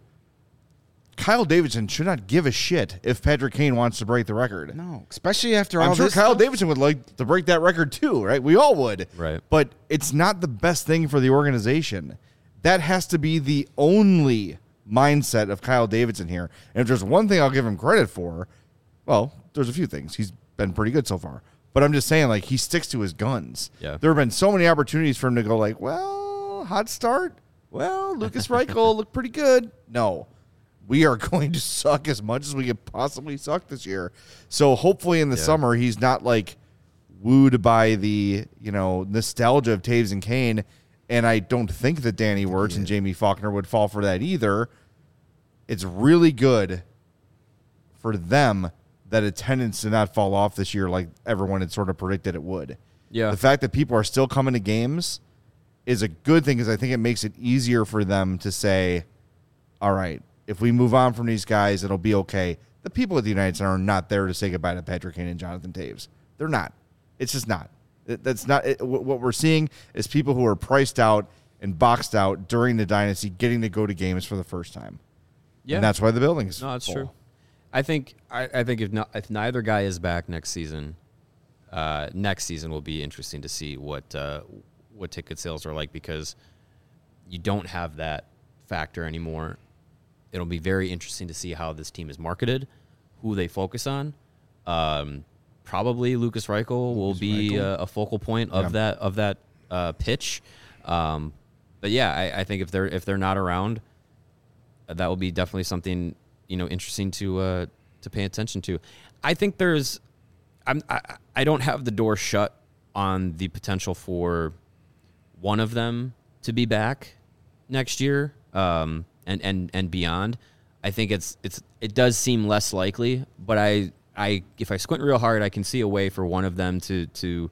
Kyle Davidson should not give a shit if Patrick Kane wants to break the record. No, especially after all I'm sure this Kyle stuff. Davidson would like to break that record too, right? We all would. Right. But it's not the best thing for the organization. That has to be the only mindset of Kyle Davidson here. And if there's one thing I'll give him credit for, well, there's a few things. He's been pretty good so far. But I'm just saying, like, he sticks to his guns. Yeah. There have been so many opportunities for him to go like, well, hot start. Well, Lucas Reichel looked pretty good. No. We are going to suck as much as we could possibly suck this year. So hopefully in the Yeah. summer he's not like wooed by the, you know, nostalgia of Taves and Kane. And I don't think that Danny Wirtz and Jamie Faulkner would fall for that either. It's really good for them that attendance did not fall off this year like everyone had sort of predicted it would. Yeah. The fact that people are still coming to games is a good thing because I think it makes it easier for them to say, all right, if we move on from these guys, it'll be okay. The people at the United Center are not there to say goodbye to Patrick Kane and Jonathan Taves. They're not. It's just not. It, that's not it, what we're seeing is people who are priced out and boxed out during the dynasty getting to go to games for the first time. Yeah, And that's why the building is no, that's full. true. I think I, I think if not, if neither guy is back next season, uh, next season will be interesting to see what uh, what ticket sales are like because you don't have that factor anymore. It'll be very interesting to see how this team is marketed, who they focus on. Um, probably Lucas Reichel will be a, a focal point of Yeah. that of that uh, pitch. Um, but yeah, I, I think if they're if they're not around, that will be definitely something you know interesting to uh, to pay attention to. I think there's, I'm, I, I don't have the door shut on the potential for one of them to be back next year, um, and, and, and beyond. I think it's it's it does seem less likely, but I I if I squint real hard, I can see a way for one of them to to,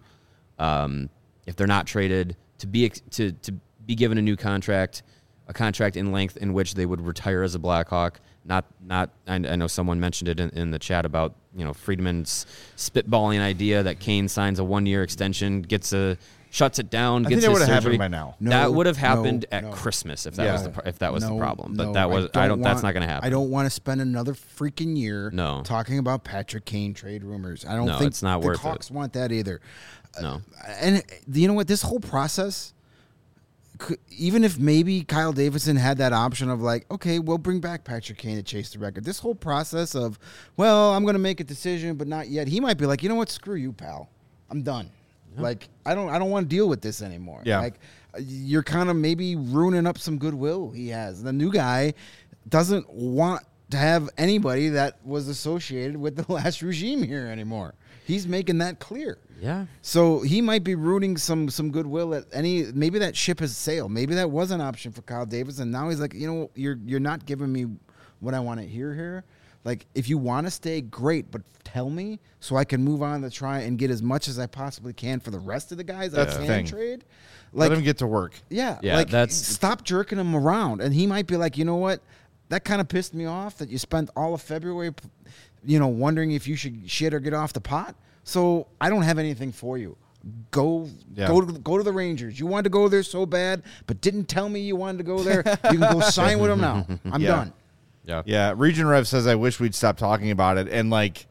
um, if they're not traded, to be to to be given a new contract, a contract in length in which they would retire as a Blackhawk. Not not I, I know someone mentioned it in, in the chat about, you know, Friedman's spitballing idea that Kane signs a one year extension, gets a shuts it down, I gets think that his would have surgery. happened by now. No, that would have happened no, at no. Christmas if that Yeah. was the pro- if that was No, the problem. But no, that was I don't. want, that's not going to happen. I don't want to spend another freaking year No. talking about Patrick Kane trade rumors. I don't No, think it's not the worth it. Hawks want that either. No. Uh, and you know what? This whole process, could, even if maybe Kyle Davidson had that option of like, okay, we'll bring back Patrick Kane to chase the record. This whole process of, well, I'm going to make a decision, but not yet. He might be like, you know what? Screw you, pal. I'm done. Like I don't I don't want to deal with this anymore. Yeah. Like you're kind of maybe ruining up some goodwill he has. The new guy doesn't want to have anybody that was associated with the last regime here anymore. He's making that clear. Yeah. So he might be ruining some some goodwill at any. Maybe that ship has sailed. Maybe that was an option for Kyle Davidson. Now he's like, you know, you're you're not giving me what I want to hear here. Like, if you want to stay, great, but tell me so I can move on to try and get as much as I possibly can for the rest of the guys That's I the can thing. trade. Like, Let him get to work. yeah, Yeah, like that's- stop jerking him around, and he might be like, you know what, that kind of pissed me off that you spent all of February, you know, wondering if you should shit or get off the pot. So I don't have anything for you. Go, Yeah. go, to, go to the Rangers. You wanted to go there so bad, but didn't tell me you wanted to go there. You can go sign with them now. I'm Yeah. done. Yeah. Yeah, Region Rev says I wish we'd stop talking about it, and like,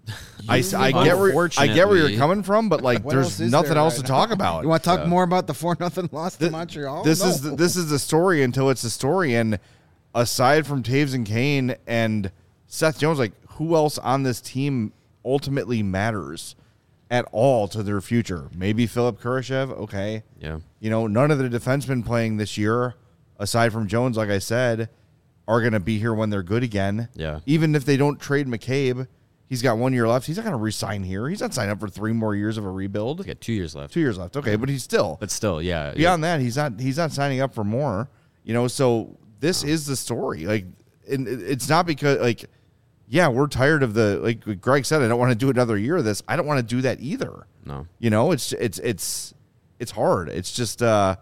I, s- I get where I get where you're Unfortunately. coming from, but like, What else there's is nothing there else right to now? talk about. You want to talk more about the four nothing loss to Th- Montreal? This No. is the, this is the story until it's the story, and aside from Taves and Kane and Seth Jones, like who else on this team ultimately matters at all to their future? Maybe Philip Kurashev, okay. Yeah. You know, none of the defensemen playing this year, aside from Jones, like I said, are going to be here when they're good again. Yeah. Even if they don't trade McCabe, he's got one year left. He's not going to resign here. He's not signing up for three more years of a rebuild. We got two years left. Two years left. Okay, but he's still But still, yeah. beyond that. He's not. He's not signing up for more. You know. So this is the story. Like, and it- it's not because like, yeah, we're tired of the like Greg said. I don't want to do another year of this. I don't want to do that either. No. You know, it's it's it's it's hard. It's just uh,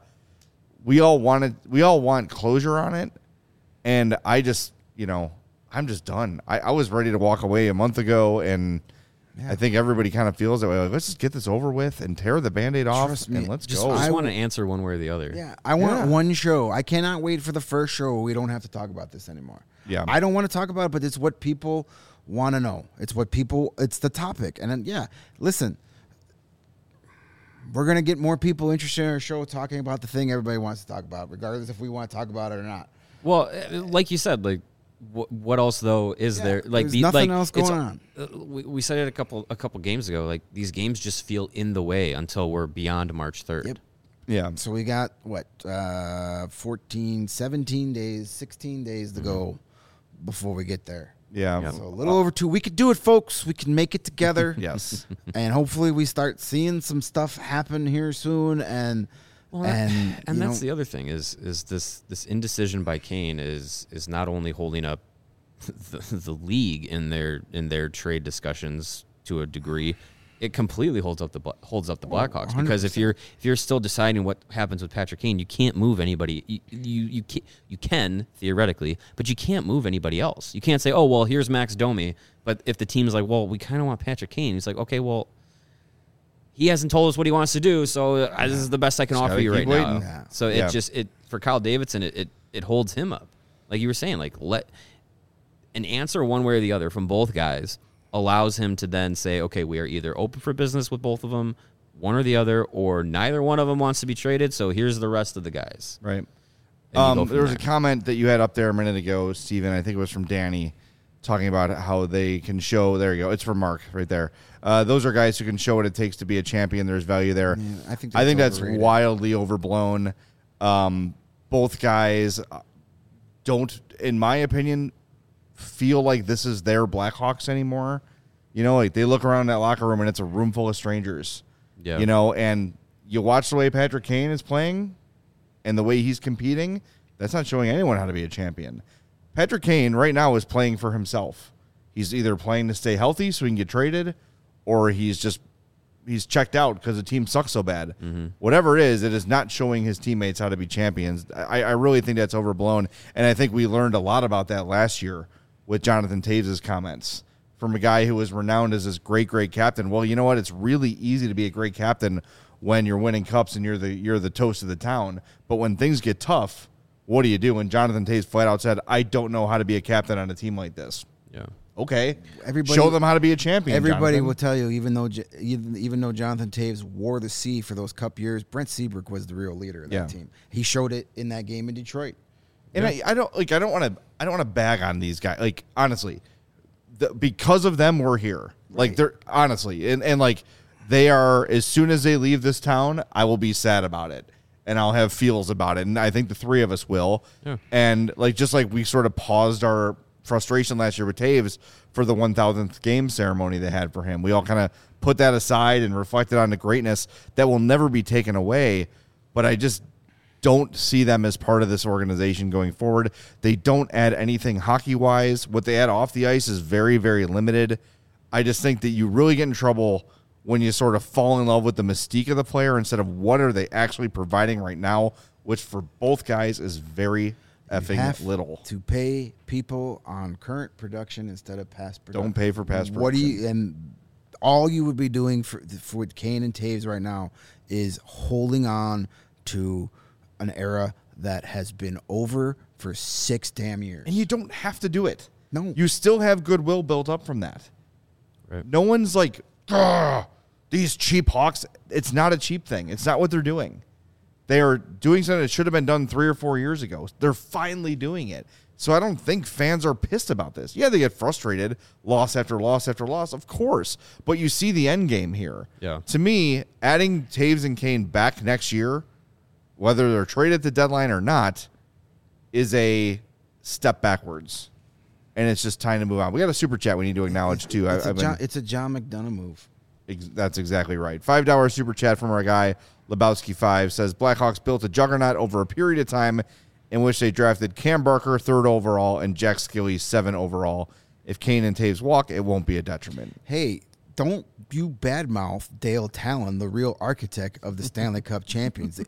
we all wanted we all want closure on it, and I just you know I'm just done. I, I was ready to walk away a month ago, and I think everybody kind of feels that way. Like, let's just get this over with and tear the Band-Aid off, Trust me, and let's Just, go. just I want to w- answer one way or the other. Yeah, I want Yeah. one show. I cannot wait for the first show where we don't have to talk about this anymore. Yeah. I don't want to talk about it, but it's what people want to know. It's what people, it's the topic. And then, yeah, listen, we're going to get more people interested in our show talking about the thing everybody wants to talk about, regardless if we want to talk about it or not. Well, uh, like you said, like what, what else though is Yeah, there? Like there's the, nothing like, else it's- going on. uh, we, we said it a couple a couple games ago. Like these games just feel in the way until we're beyond March third. Yep. yeah. So we got, what, uh, fourteen, seventeen days, sixteen days to go before we get there. Yeah. Yeah. So a little over two. We could do it, folks. We can make it together. Yes. And hopefully we start seeing some stuff happen here soon. And Well, and and you that's know, the other thing is is this this indecision by Kane is is not only holding up the, the league in their in their trade discussions to a degree, it completely holds up the Bla- holds up the Blackhawks because if you're if you're still deciding what happens with Patrick Kane, you can't move anybody. You you you can, you can theoretically, but you can't move anybody else. You can't say, oh well, here's Max Domi, but if the team's like, well, we kind of want Patrick Kane, he's like, okay, well. He hasn't told us what he wants to do, so uh, this is the best I can Just offer gotta you keep right waiting. now. Yeah. So it Yeah. just it for Kyle Davidson, it, it it holds him up, like you were saying. Like let an answer one way or the other from both guys allows him to then say, okay, we are either open for business with both of them, one or the other, or neither one of them wants to be traded. So here's the rest of the guys. Right. And you go Um, from there was a there. comment that you had up there a minute ago, Steven. I think it was from Danny, talking about how they can show. There you go. It's from Mark right there. Uh, those are guys who can show what it takes to be a champion. There's value there. Yeah, I think I think that's that's overrated. wildly overblown. Um, both guys don't, in my opinion, feel like this is their Blackhawks anymore. You know, like they look around that locker room and it's a room full of strangers. Yeah. You know, and you watch the way Patrick Kane is playing and the way he's competing, that's not showing anyone how to be a champion. Patrick Kane right now is playing for himself. He's either playing to stay healthy so he can get traded, or he's just he's checked out because the team sucks so bad. Mm-hmm. Whatever it is, it is not showing his teammates how to be champions. I, I really think that's overblown, and I think we learned a lot about that last year with Jonathan Toews' comments from a guy who was renowned as this great, great captain. Well, you know what? It's really easy to be a great captain when you're winning cups and you're the you're the toast of the town. But when things get tough, what do you do? And Jonathan Toews flat out said, I don't know how to be a captain on a team like this. Yeah. Okay. Everybody, show them how to be a champion. Everybody Jonathan. will tell you, even though J- even, even though Jonathan Toews wore the C for those cup years, Brent Seabrook was the real leader of that Yeah. team. He showed it in that game in Detroit. And yeah. I, I don't like I don't want to I don't want to bag on these guys. Like honestly, the, because of them we're here. Like Right. they're honestly and, and like they are, as soon as they leave this town, I will be sad about it. And I'll have feels about it. And I think the three of us will. Yeah. And like just like we sort of paused our frustration last year with Toews for the one thousandth game ceremony they had for him. We all kind of put that aside and reflected on the greatness that will never be taken away. But I just don't see them as part of this organization going forward. They don't add anything hockey-wise. What they add off the ice is very, very limited. I just think that you really get in trouble when you sort of fall in love with the mystique of the player instead of what are they actually providing right now, which for both guys is very effing You have little. to pay people on current production instead of past production. Don't pay for past What do production. you and all you would be doing for for with Kane and Toews right now is holding on to an era that has been over for six damn years. And you don't have to do it. No. You still have goodwill built up from that. Right. No one's like, "Ugh, these cheap Hawks." It's not a cheap thing. It's not what they're doing. They are doing something that should have been done three or four years ago. They're finally doing it. So I don't think fans are pissed about this. Yeah, they get frustrated, loss after loss after loss, of course. But you see the end game here. Yeah. To me, adding Toews and Kane back next year, whether they're traded at the deadline or not, is a step backwards. And it's just time to move on. We got a super chat we need to acknowledge, too. It's, I, a I've been, John, it's a John McDonough move. Ex- That's exactly right. five dollars super chat from our guy, Lebowski five, says Blackhawks built a juggernaut over a period of time in which they drafted Cam Barker third overall and Jack Skilly seven overall. If Kane and Toews walk, it won't be a detriment. Hey, don't you badmouth Dale Talon, the real architect of the Stanley Cup champions.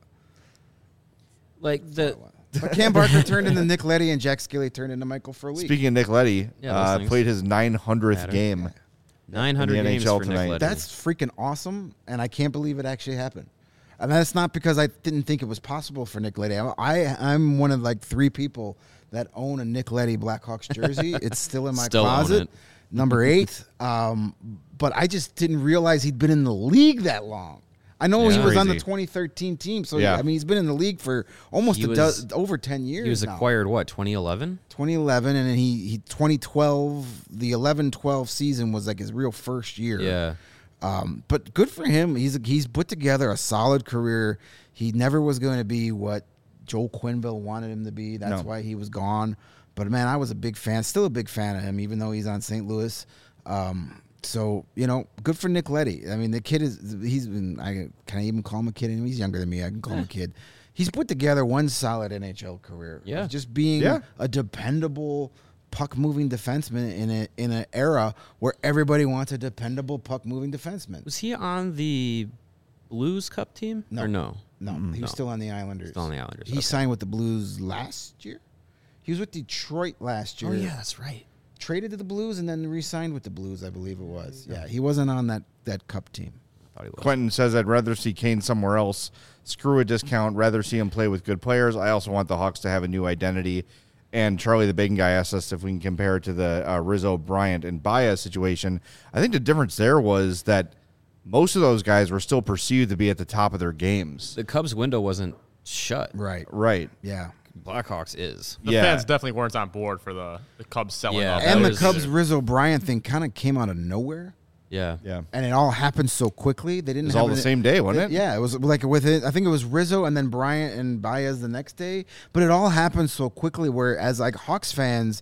Like the But Cam Barker turned into Nick Leddy and Jack Skilly turned into Michael Furley. Speaking of Nick Leddy, Yeah, those uh, things played his nine hundredth matter. game. nine hundred in the games N H L for tonight. Nick Leddy. That's freaking awesome, and I can't believe it actually happened. And that's not because I didn't think it was possible for Nick Leddy. I, I I'm one of like three people that own a Nick Leddy Blackhawks jersey. It's still in my Still own closet, it. number eight. Um, but I just didn't realize he'd been in the league that long. I know he Yeah. was on the Crazy. twenty thirteen team, so Yeah. I mean he's been in the league for almost He a was- do- over ten years. he was now. acquired what twenty eleven? twenty eleven, and then he, he twenty twelve, the eleven twelve season was like his real first year. Yeah. Um, but good for him. He's he's put together a solid career. He never was going to be what Joel Quenneville wanted him to be. That's No. why he was gone. But man, I was a big fan, still a big fan of him, even though he's on Saint Louis. Um, so you know, good for Nick Leddy. I mean, the kid is he's been. I can I even call him a kid? He's younger than me. I can call him a kid. He's put together one solid N H L career. Yeah. Of just being Yeah. a dependable puck moving defenseman in a in an era where everybody wants a dependable puck moving defenseman. Was he on the Blues Cup team? No. Or no? No, he was still on the Islanders. Still on the Islanders. He okay. signed with the Blues last year. He was with Detroit last year. Oh yeah, that's right. Traded to the Blues and then re-signed with the Blues, I believe it was. Yeah, he wasn't on that, that Cup team. I thought he was. Quentin says, I'd rather see Kane somewhere else. Screw a discount. Rather see him play with good players. I also want the Hawks to have a new identity. And Charlie the Bacon guy asked us if we can compare it to the uh, Rizzo, Bryant, and Baez situation. I think the difference there was that most of those guys were still perceived to be at the top of their games. The Cubs window wasn't shut. Right. Right. Yeah. Blackhawks is. The Yeah. fans definitely weren't on board for the, the Cubs selling Yeah, off. that And the was- Cubs Rizzo Bryant thing kind of came out of nowhere. Yeah. Yeah. And it all happened so quickly. They didn't It was have all the an- same day, wasn't it? Yeah, it was like with it. I think it was Rizzo and then Bryant and Baez the next day. But it all happened so quickly. Whereas like Hawks fans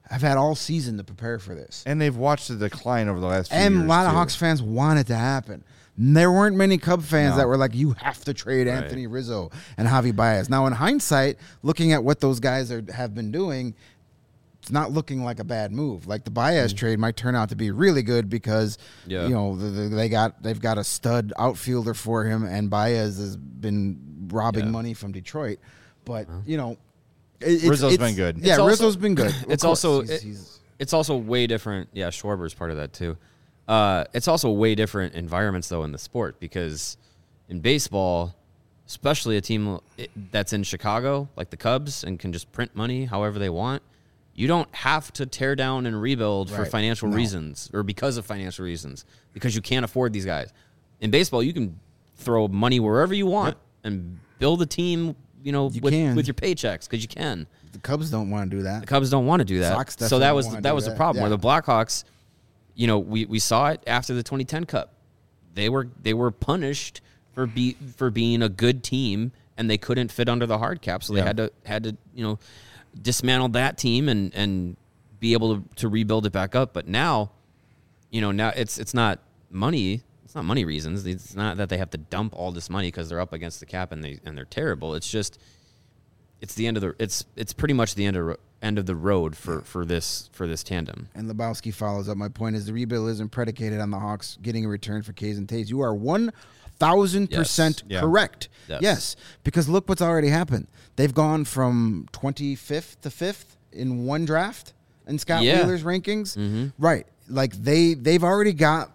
have had all season to prepare for this. And they've watched the decline over the last few And years, a lot of too. Hawks fans want it to happen. There weren't many Cub fans No. that were like, you have to trade Right. Anthony Rizzo and Javi Baez. Now, in hindsight, looking at what those guys are, have been doing, it's not looking like a bad move. Like the Baez Mm. trade might turn out to be really good because Yeah. you know the, the, they got they've got a stud outfielder for him, and Baez has been robbing Yeah. money from Detroit. But you know, it, it's, Rizzo's it's- been good. Yeah, It's also- Rizzo's been good. Of it's course, also- he's- it- he's- It's also way different. Yeah, Schwarber's part of that too. Uh, it's also way different environments though in the sport because in baseball, especially a team that's in Chicago like the Cubs and can just print money however they want, you don't have to tear down and rebuild for Right. financial No. reasons or because of financial reasons because you can't afford these guys. In baseball, you can throw money wherever you want and build a team. You know, You with, can. with your paychecks because you can. the Cubs don't want to do that. The Cubs don't want to do that. Sox so definitely that don't was wanna that do was the that. problem. Yeah. Where the Blackhawks, you know, we, we saw it after the twenty ten Cup. They were they were punished for be for being a good team and they couldn't fit under the hard cap, so they Yeah. had to had to you know dismantle that team and and be able to, to rebuild it back up. But now, you know, now it's it's not money. It's not money reasons. It's not that they have to dump all this money because they're up against the cap and they and they're terrible. It's just it's the end of the it's it's pretty much the end of end of the road for, for this for this tandem. And Lebowski follows up. My point is the rebuild isn't predicated on the Hawks getting a return for K's and Taves. You are one thousand percent Yes. Yeah. correct. Yes. Yes, because look what's already happened. They've gone from twenty-fifth to fifth in one draft in Scott Yeah. Wheeler's rankings. Mm-hmm. Right, like they they've already got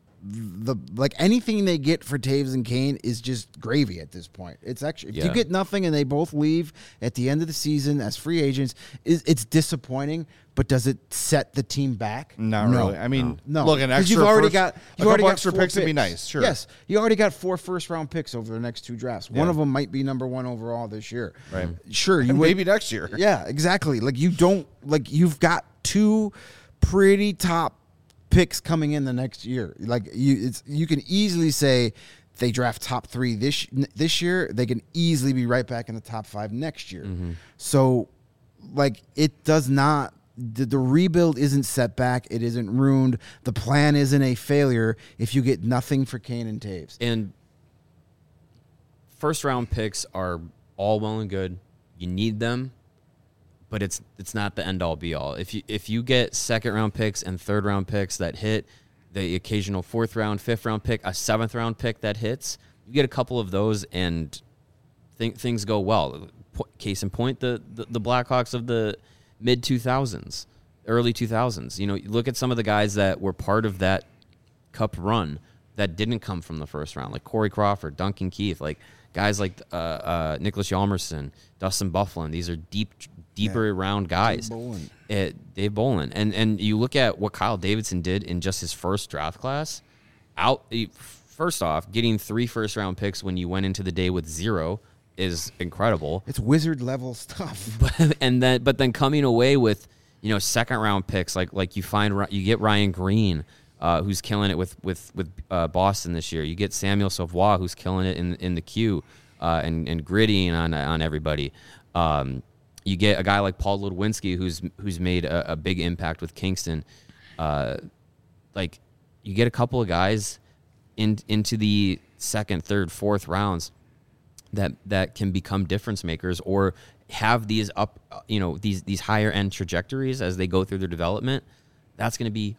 the like anything they get for Taves and Kane is just gravy at this point. It's actually if you Yeah. get nothing and they both leave at the end of the season as free agents, is it's disappointing. But does it set the team back? Not No. really. I mean, No, look, an 'Cause extra you've already first, got a you've already couple got extra four picks would be nice. Sure. Yes, you already got four first round picks over the next two drafts. One Yeah. of them might be number one overall this year. Right. Sure, you And would- maybe next year. Yeah, exactly. Like you don't like you've got two pretty top picks coming in the next year. Like you, it's you can easily say they draft top three this this year. They can easily be right back in the top five next year. So, like it does not. The, the rebuild isn't set back. It isn't ruined. The plan isn't a failure if you get nothing for Kane and Taves. And first round picks are all well and good. You need them, but it's it's not the end all be all. If you if you get second round picks and third round picks that hit, the occasional fourth round, fifth round pick, a seventh round pick that hits, you get a couple of those and th- things go well. Po- Case in point, the, the the Blackhawks of the mid two thousands, early two thousands. You know, you look at some of the guys that were part of that Cup run that didn't come from the first round, like Corey Crawford, Duncan Keith, like guys like uh, uh, Nicholas Hjalmarsson, Dustin Byfuglien. These are deep, deeper round guys. Dave Bolin. It, Dave Bolin. And and you look at what Kyle Davidson did in just his first draft class. Out he- first off, getting three first round picks when you went into the day with zero is incredible. It's wizard level stuff. and then but then coming away with you know second round picks like like you find you get Ryan Green uh, who's killing it with with with uh, Boston this year. You get Samuel Savoie who's killing it in in the queue uh, and and grittying on on everybody. Um, you get a guy like Paul Ludwinski who's who's made a, a big impact with Kingston. Uh, like you get a couple of guys in into the second, third, fourth rounds that that can become difference makers or have these up, you know, these these higher end trajectories as they go through their development. That's going to be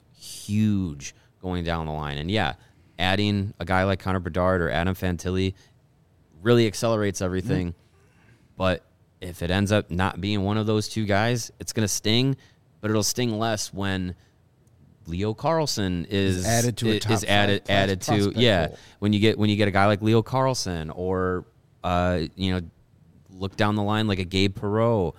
huge going down the line. And yeah, adding a guy like Connor Bedard or Adam Fantilli really accelerates everything. Mm-hmm. But if it ends up not being one of those two guys, it's going to sting, but it'll sting less when Leo Carlson is added to a is top five added class added to prospect yeah pool. when you get when you get a guy like Leo Carlson or uh you know look down the line like a Gabe Perreault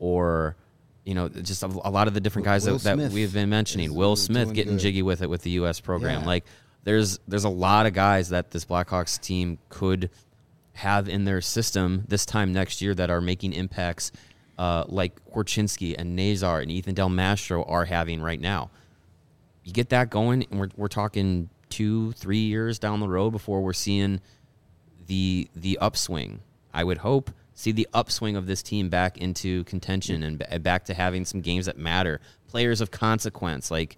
or you know just a, a lot of the different guys Will that, that Smith we've been mentioning. is Will doing Smith getting good. jiggy with it with the U S program. Yeah. Like there's there's a lot of guys that this Blackhawks team could have in their system this time next year that are making impacts uh, like Korchinski and Nazar and Ethan Del Mastro are having right now. You get that going, and we're we're talking two, three years down the road before we're seeing the the upswing. I would hope see the upswing of this team back into contention and b- back to having some games that matter, players of consequence. Like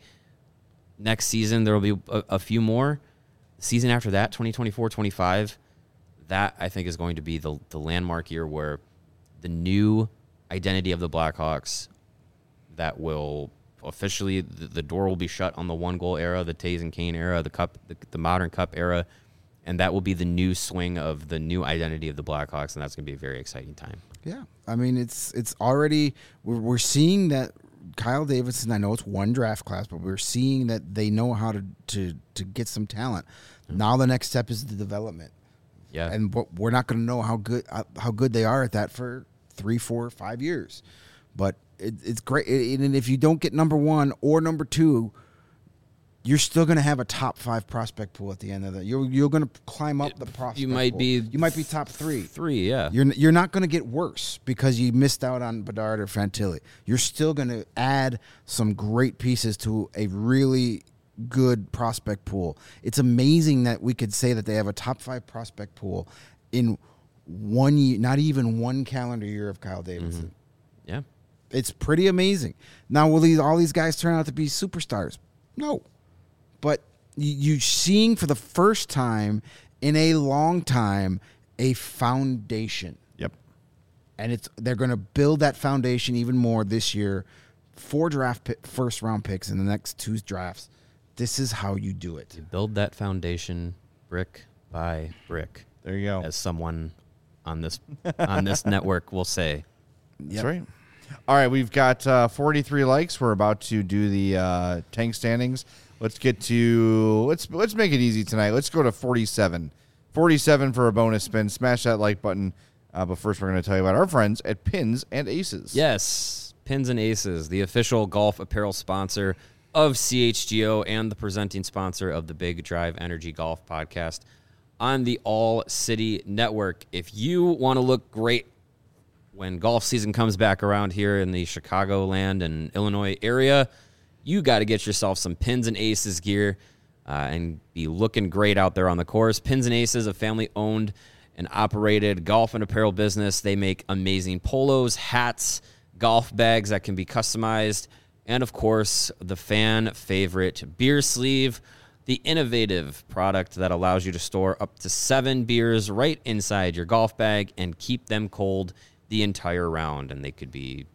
next season, there will be a, a few more. The season after that, twenty twenty-four twenty-five, that I think is going to be the, the landmark year where the new identity of the Blackhawks that will officially, the, the door will be shut on the one goal era, the Taves and Kane era, the cup, the, the modern cup era, and that will be the new swing of the new identity of the Blackhawks, and that's going to be a very exciting time. Yeah, I mean it's it's already we're, we're seeing that Kyle Davidson. I know it's one draft class, but we're seeing that they know how to to to get some talent. Mm-hmm. Now the next step is the development. Yeah, and we're not going to know how good how good they are at that for three, four, five years. But it, it's great, and if you don't get number one or number two, you're still going to have a top five prospect pool at the end of that. You're you're going to climb up the prospect. You might pool. be you might be top three. Three, yeah. You're you're not going to get worse because you missed out on Bedard or Fantilli. You're still going to add some great pieces to a really good prospect pool. It's amazing that we could say that they have a top five prospect pool in one year, not even one calendar year of Kyle Davidson. Mm-hmm. Yeah. It's pretty amazing. Now, will these all these guys turn out to be superstars? No. But you, you seeing for the first time in a long time a foundation. Yep. And it's they're going to build that foundation even more this year. Four draft pick, first round picks in the next two drafts. This is how you do it. You build that foundation brick by brick. There you go. As someone on this on this network will say. Yep. That's right. All right, we've got uh, forty-three likes. We're about to do the uh, tank standings. Let's get to let's let's make it easy tonight. Let's go to forty-seven. forty-seven for a bonus spin. Smash that like button. Uh, but first, we're going to tell you about our friends at Pins and Aces. Yes, Pins and Aces, the official golf apparel sponsor of C H G O and the presenting sponsor of the Big Drive Energy Golf podcast on the All City Network. If you want to look great when golf season comes back around here in the Chicagoland and Illinois area, you got to get yourself some Pins and Aces gear uh, and be looking great out there on the course. Pins and Aces, a family-owned and operated golf and apparel business. They make amazing polos, hats, golf bags that can be customized, and, of course, the fan favorite beer sleeve, the innovative product that allows you to store up to seven beers right inside your golf bag and keep them cold the entire round. And they could be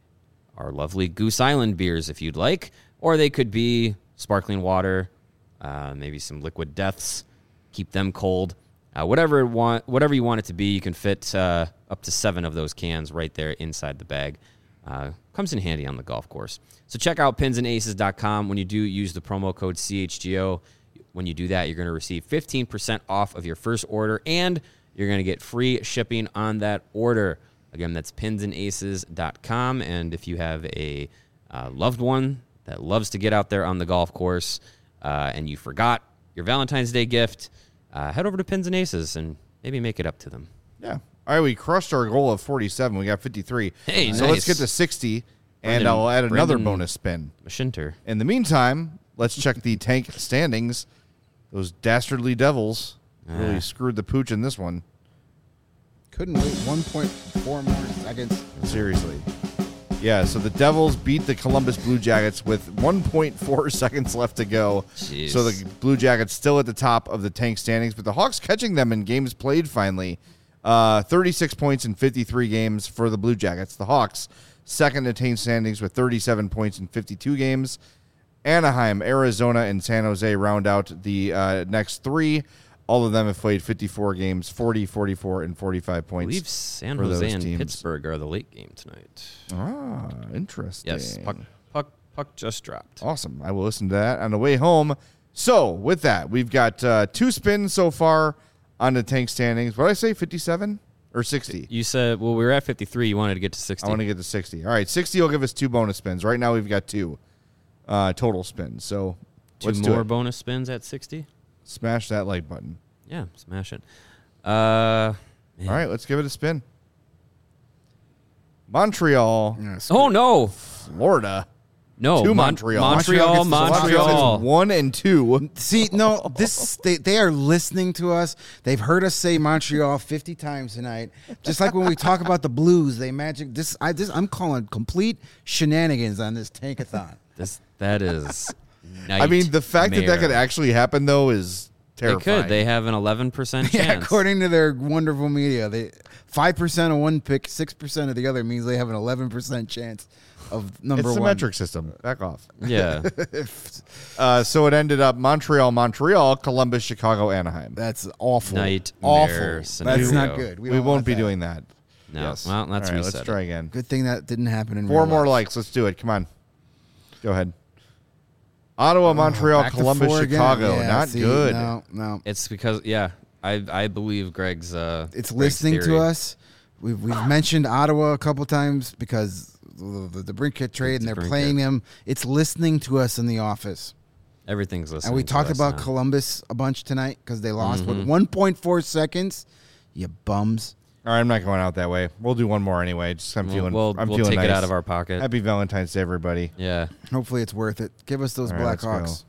our lovely Goose Island beers if you'd like, or they could be sparkling water, uh, maybe some liquid deaths, keep them cold. Uh, whatever, want, whatever you want it to be, you can fit uh, up to seven of those cans right there inside the bag. Uh, comes in handy on the golf course. So check out pins and aces dot com. When you do use the promo code C H G O, when you do that, you're going to receive fifteen percent off of your first order, and you're going to get free shipping on that order. Again, that's pins and aces dot com. And if you have a uh, loved one that loves to get out there on the golf course uh, and you forgot your Valentine's Day gift, uh, head over to Pins and Aces and maybe make it up to them. Yeah. All right, we crushed our goal of forty-seven. We got fifty-three. Hey, so nice. let's get to sixty, and Brendan- I'll add another Brendan- bonus spin. Mashinter. In the meantime, let's check the tank standings. Those dastardly Devils really Ah. screwed the pooch in this one. Couldn't wait one point four more seconds. Seriously. Yeah, so the Devils beat the Columbus Blue Jackets with one point four seconds left to go. Jeez. So the Blue Jackets still at the top of the tank standings, but the Hawks catching them in games played finally. Uh, thirty-six points in fifty-three games for the Blue Jackets. The Hawks second in tank standings with thirty-seven points in fifty-two games. Anaheim, Arizona, and San Jose round out the uh, next three. All of them have played fifty-four games, forty, forty-four, and forty-five I points. believe San for Jose those and teams. Pittsburgh are the late game tonight. Ah, interesting. Yes, puck, puck, puck just dropped. Awesome. I will listen to that on the way home. So, with that, we've got uh, two spins so far on the tank standings. What did I say, fifty-seven or sixty? You said, well, we were at fifty-three. You wanted to get to sixty. I want to get to sixty. All right, sixty will give us two bonus spins. Right now, we've got two uh, total spins. So, Two let's do more it. bonus spins at sixty? Smash that like button. Yeah, smash it. Uh, man. All right, let's give it a spin. Montreal, Yes. Oh, no. Florida. No, to Mon- Montreal. Montreal, Montreal gets the Montreal Montreal. is one and two. See, no, this they, they are listening to us. They've heard us say Montreal fifty times tonight. Just like when we talk about the Blues, they magic this. I this I'm calling complete shenanigans on this tankathon. This that is. I mean, the fact that that could actually happen though is They terrifying. could. They have an eleven percent Yeah, chance. according to their wonderful media, they five percent of one pick, six percent of the other means they have an eleven percent chance of number it's the one. metric system. Back off. Yeah. Uh, so it ended up Montreal, Montreal, Columbus, Chicago, Anaheim. That's awful. Nightmare awful. scenario. That's not good. We, don't won't want be that. doing that. No. Yes. Well, let's All right, reset let's it. try again. Good thing that didn't happen in Four real more life. likes. Let's do it. Come on. Ottawa, Montreal, Oh, back to Columbus, four again. Chicago. Yeah, Not see, good. No, no. It's because yeah, I I believe Greg's. Uh, It's Greg's listening to theory. us. We've we've mentioned Ottawa a couple times because the, the, the Brinkett trade, and they're Brinkett. playing them. It's listening to us in the office. Everything's listening. And we to talked us about now. Columbus a bunch tonight because they lost Mm-hmm. with one point four seconds. You bums. All right, I'm not going out that way. We'll do one more anyway. Just I'm We'll, feeling. we'll, I'm we'll feeling take nice. it out of our pocket. Happy Valentine's Day, everybody. Yeah. Hopefully it's worth it. Give us those All right, let's Blackhawks.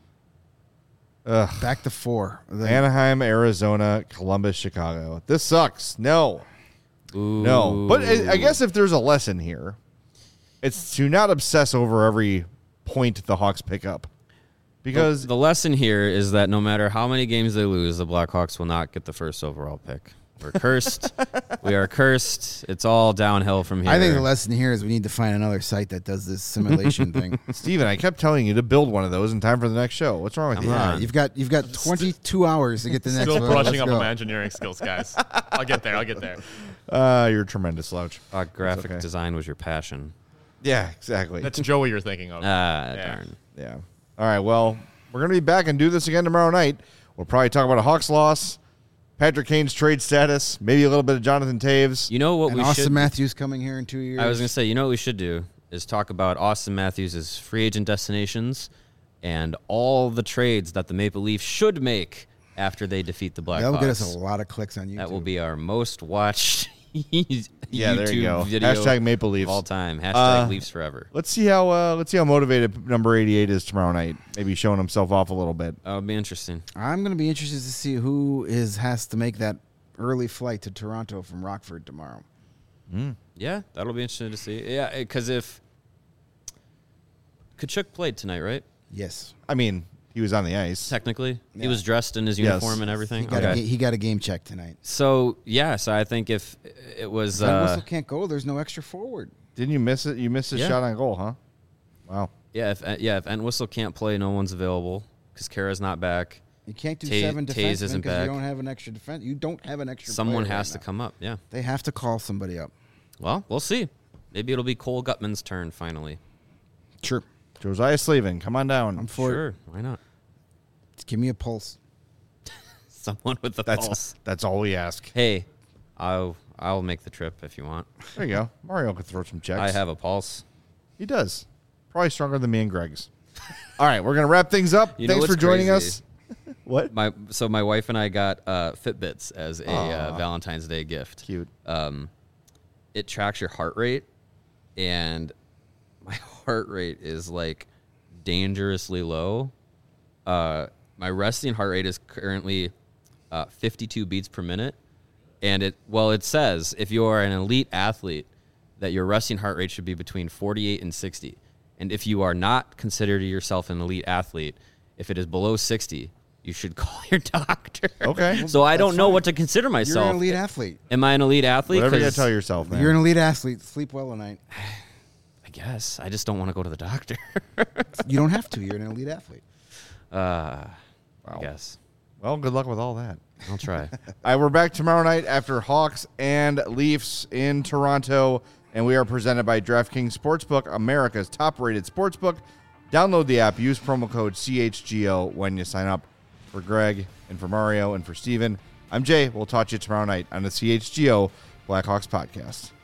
Ugh. Back to four. The- Anaheim, Arizona, Columbus, Chicago. This sucks. No, Ooh. no. But I I guess if there's a lesson here, it's to not obsess over every point the Hawks pick up, because the, the lesson here is that no matter how many games they lose, the Blackhawks will not get the first overall pick. We're cursed. We are cursed. It's all downhill from here. I think the lesson here is we need to find another site that does this simulation thing. Steven, I kept telling you to build one of those in time for the next show. What's wrong with Come you? on. Yeah, you've got you've got twenty-two hours to get the next Still one. brushing Let's up go. on my engineering skills, guys. I'll get there. I'll get there. Uh, you're a tremendous slouch. Uh, graphic okay. design was your passion. Yeah, exactly. That's Joey you're thinking of. Ah, Yeah. darn. Yeah. All right. Well, we're going to be back and do this again tomorrow night. We'll probably talk about a Hawks loss, Patrick Kane's trade status, maybe a little bit of Jonathan Taves. You know what And we Austin should Matthews coming here in two years. I was going to say, you know what we should do is talk about Austin Matthews' free agent destinations and all the trades that the Maple Leafs should make after they defeat the Blackhawks. That'll get us a lot of clicks on YouTube. That will be our most watched Yeah, there you YouTube go. video Hashtag Maple Leafs. of all time. Hashtag Uh, Leafs forever. Let's see how uh, let's see how motivated number eighty-eight is tomorrow night. Maybe showing himself off a little bit. That would be interesting. I'm going to be interested to see who is has to make that early flight to Toronto from Rockford tomorrow. Yeah, that'll be interesting to see. Yeah, because if Kachuk played tonight, right? Yes, I mean, he was on the ice. Technically, Yeah. he was dressed in his Yes. uniform and everything. he got, Okay. a, ga- he got a game check tonight. So yeah, so I think if it was, That uh, whistle can't go. There's no extra forward. Didn't you miss it? You missed his Yeah. shot on goal, huh? Wow. yeah, if yeah, if Entwistle can't play, no one's available because Kara's not back. You can't do Ta- seven Taze defensemen isn't because you back. don't have an extra defense. You don't have an extra. Someone player has right to now. come up. Yeah. They have to call somebody up. Well, we'll see. Maybe it'll be Cole Gutman's turn finally. Sure. Josiah Slavin, come on down. I'm for Sure, why not? it. Give me a pulse. Someone with the that's pulse. that's all we ask. Hey, I'll I'll make the trip if you want. There you go. Mario could throw some checks. I have a pulse. He does. Probably stronger than me and Greg's. All right, we're gonna wrap things up. You know Thanks for what's joining crazy? us. What? My so my wife and I got uh, Fitbits as a uh, Aw. Valentine's Day gift. Cute. Um, it tracks your heart rate, and my heart rate is like dangerously low. Uh, my resting heart rate is currently uh, fifty-two beats per minute, and it well it says if you are an elite athlete that your resting heart rate should be between forty-eight and sixty, and if you are not considered yourself an elite athlete, if it is below sixty, you should call your doctor. Okay. So I don't know what to consider You're myself. an elite athlete. Am I an elite athlete? Whatever you gotta 'Cause tell yourself, man. You're an elite athlete. Sleep well tonight. I guess I just don't want to go to the doctor. You don't have to. You're an elite athlete. uh, Wow. I guess Well, good luck with all that. I'll try. All right, we're back tomorrow night after Hawks and Leafs in Toronto, and we are presented by DraftKings Sportsbook, America's top-rated sportsbook. Download the app. Use promo code C H G O when you sign up. For Greg and for Mario and for Steven, I'm Jay. We'll talk to you tomorrow night on the C H G O Blackhawks podcast.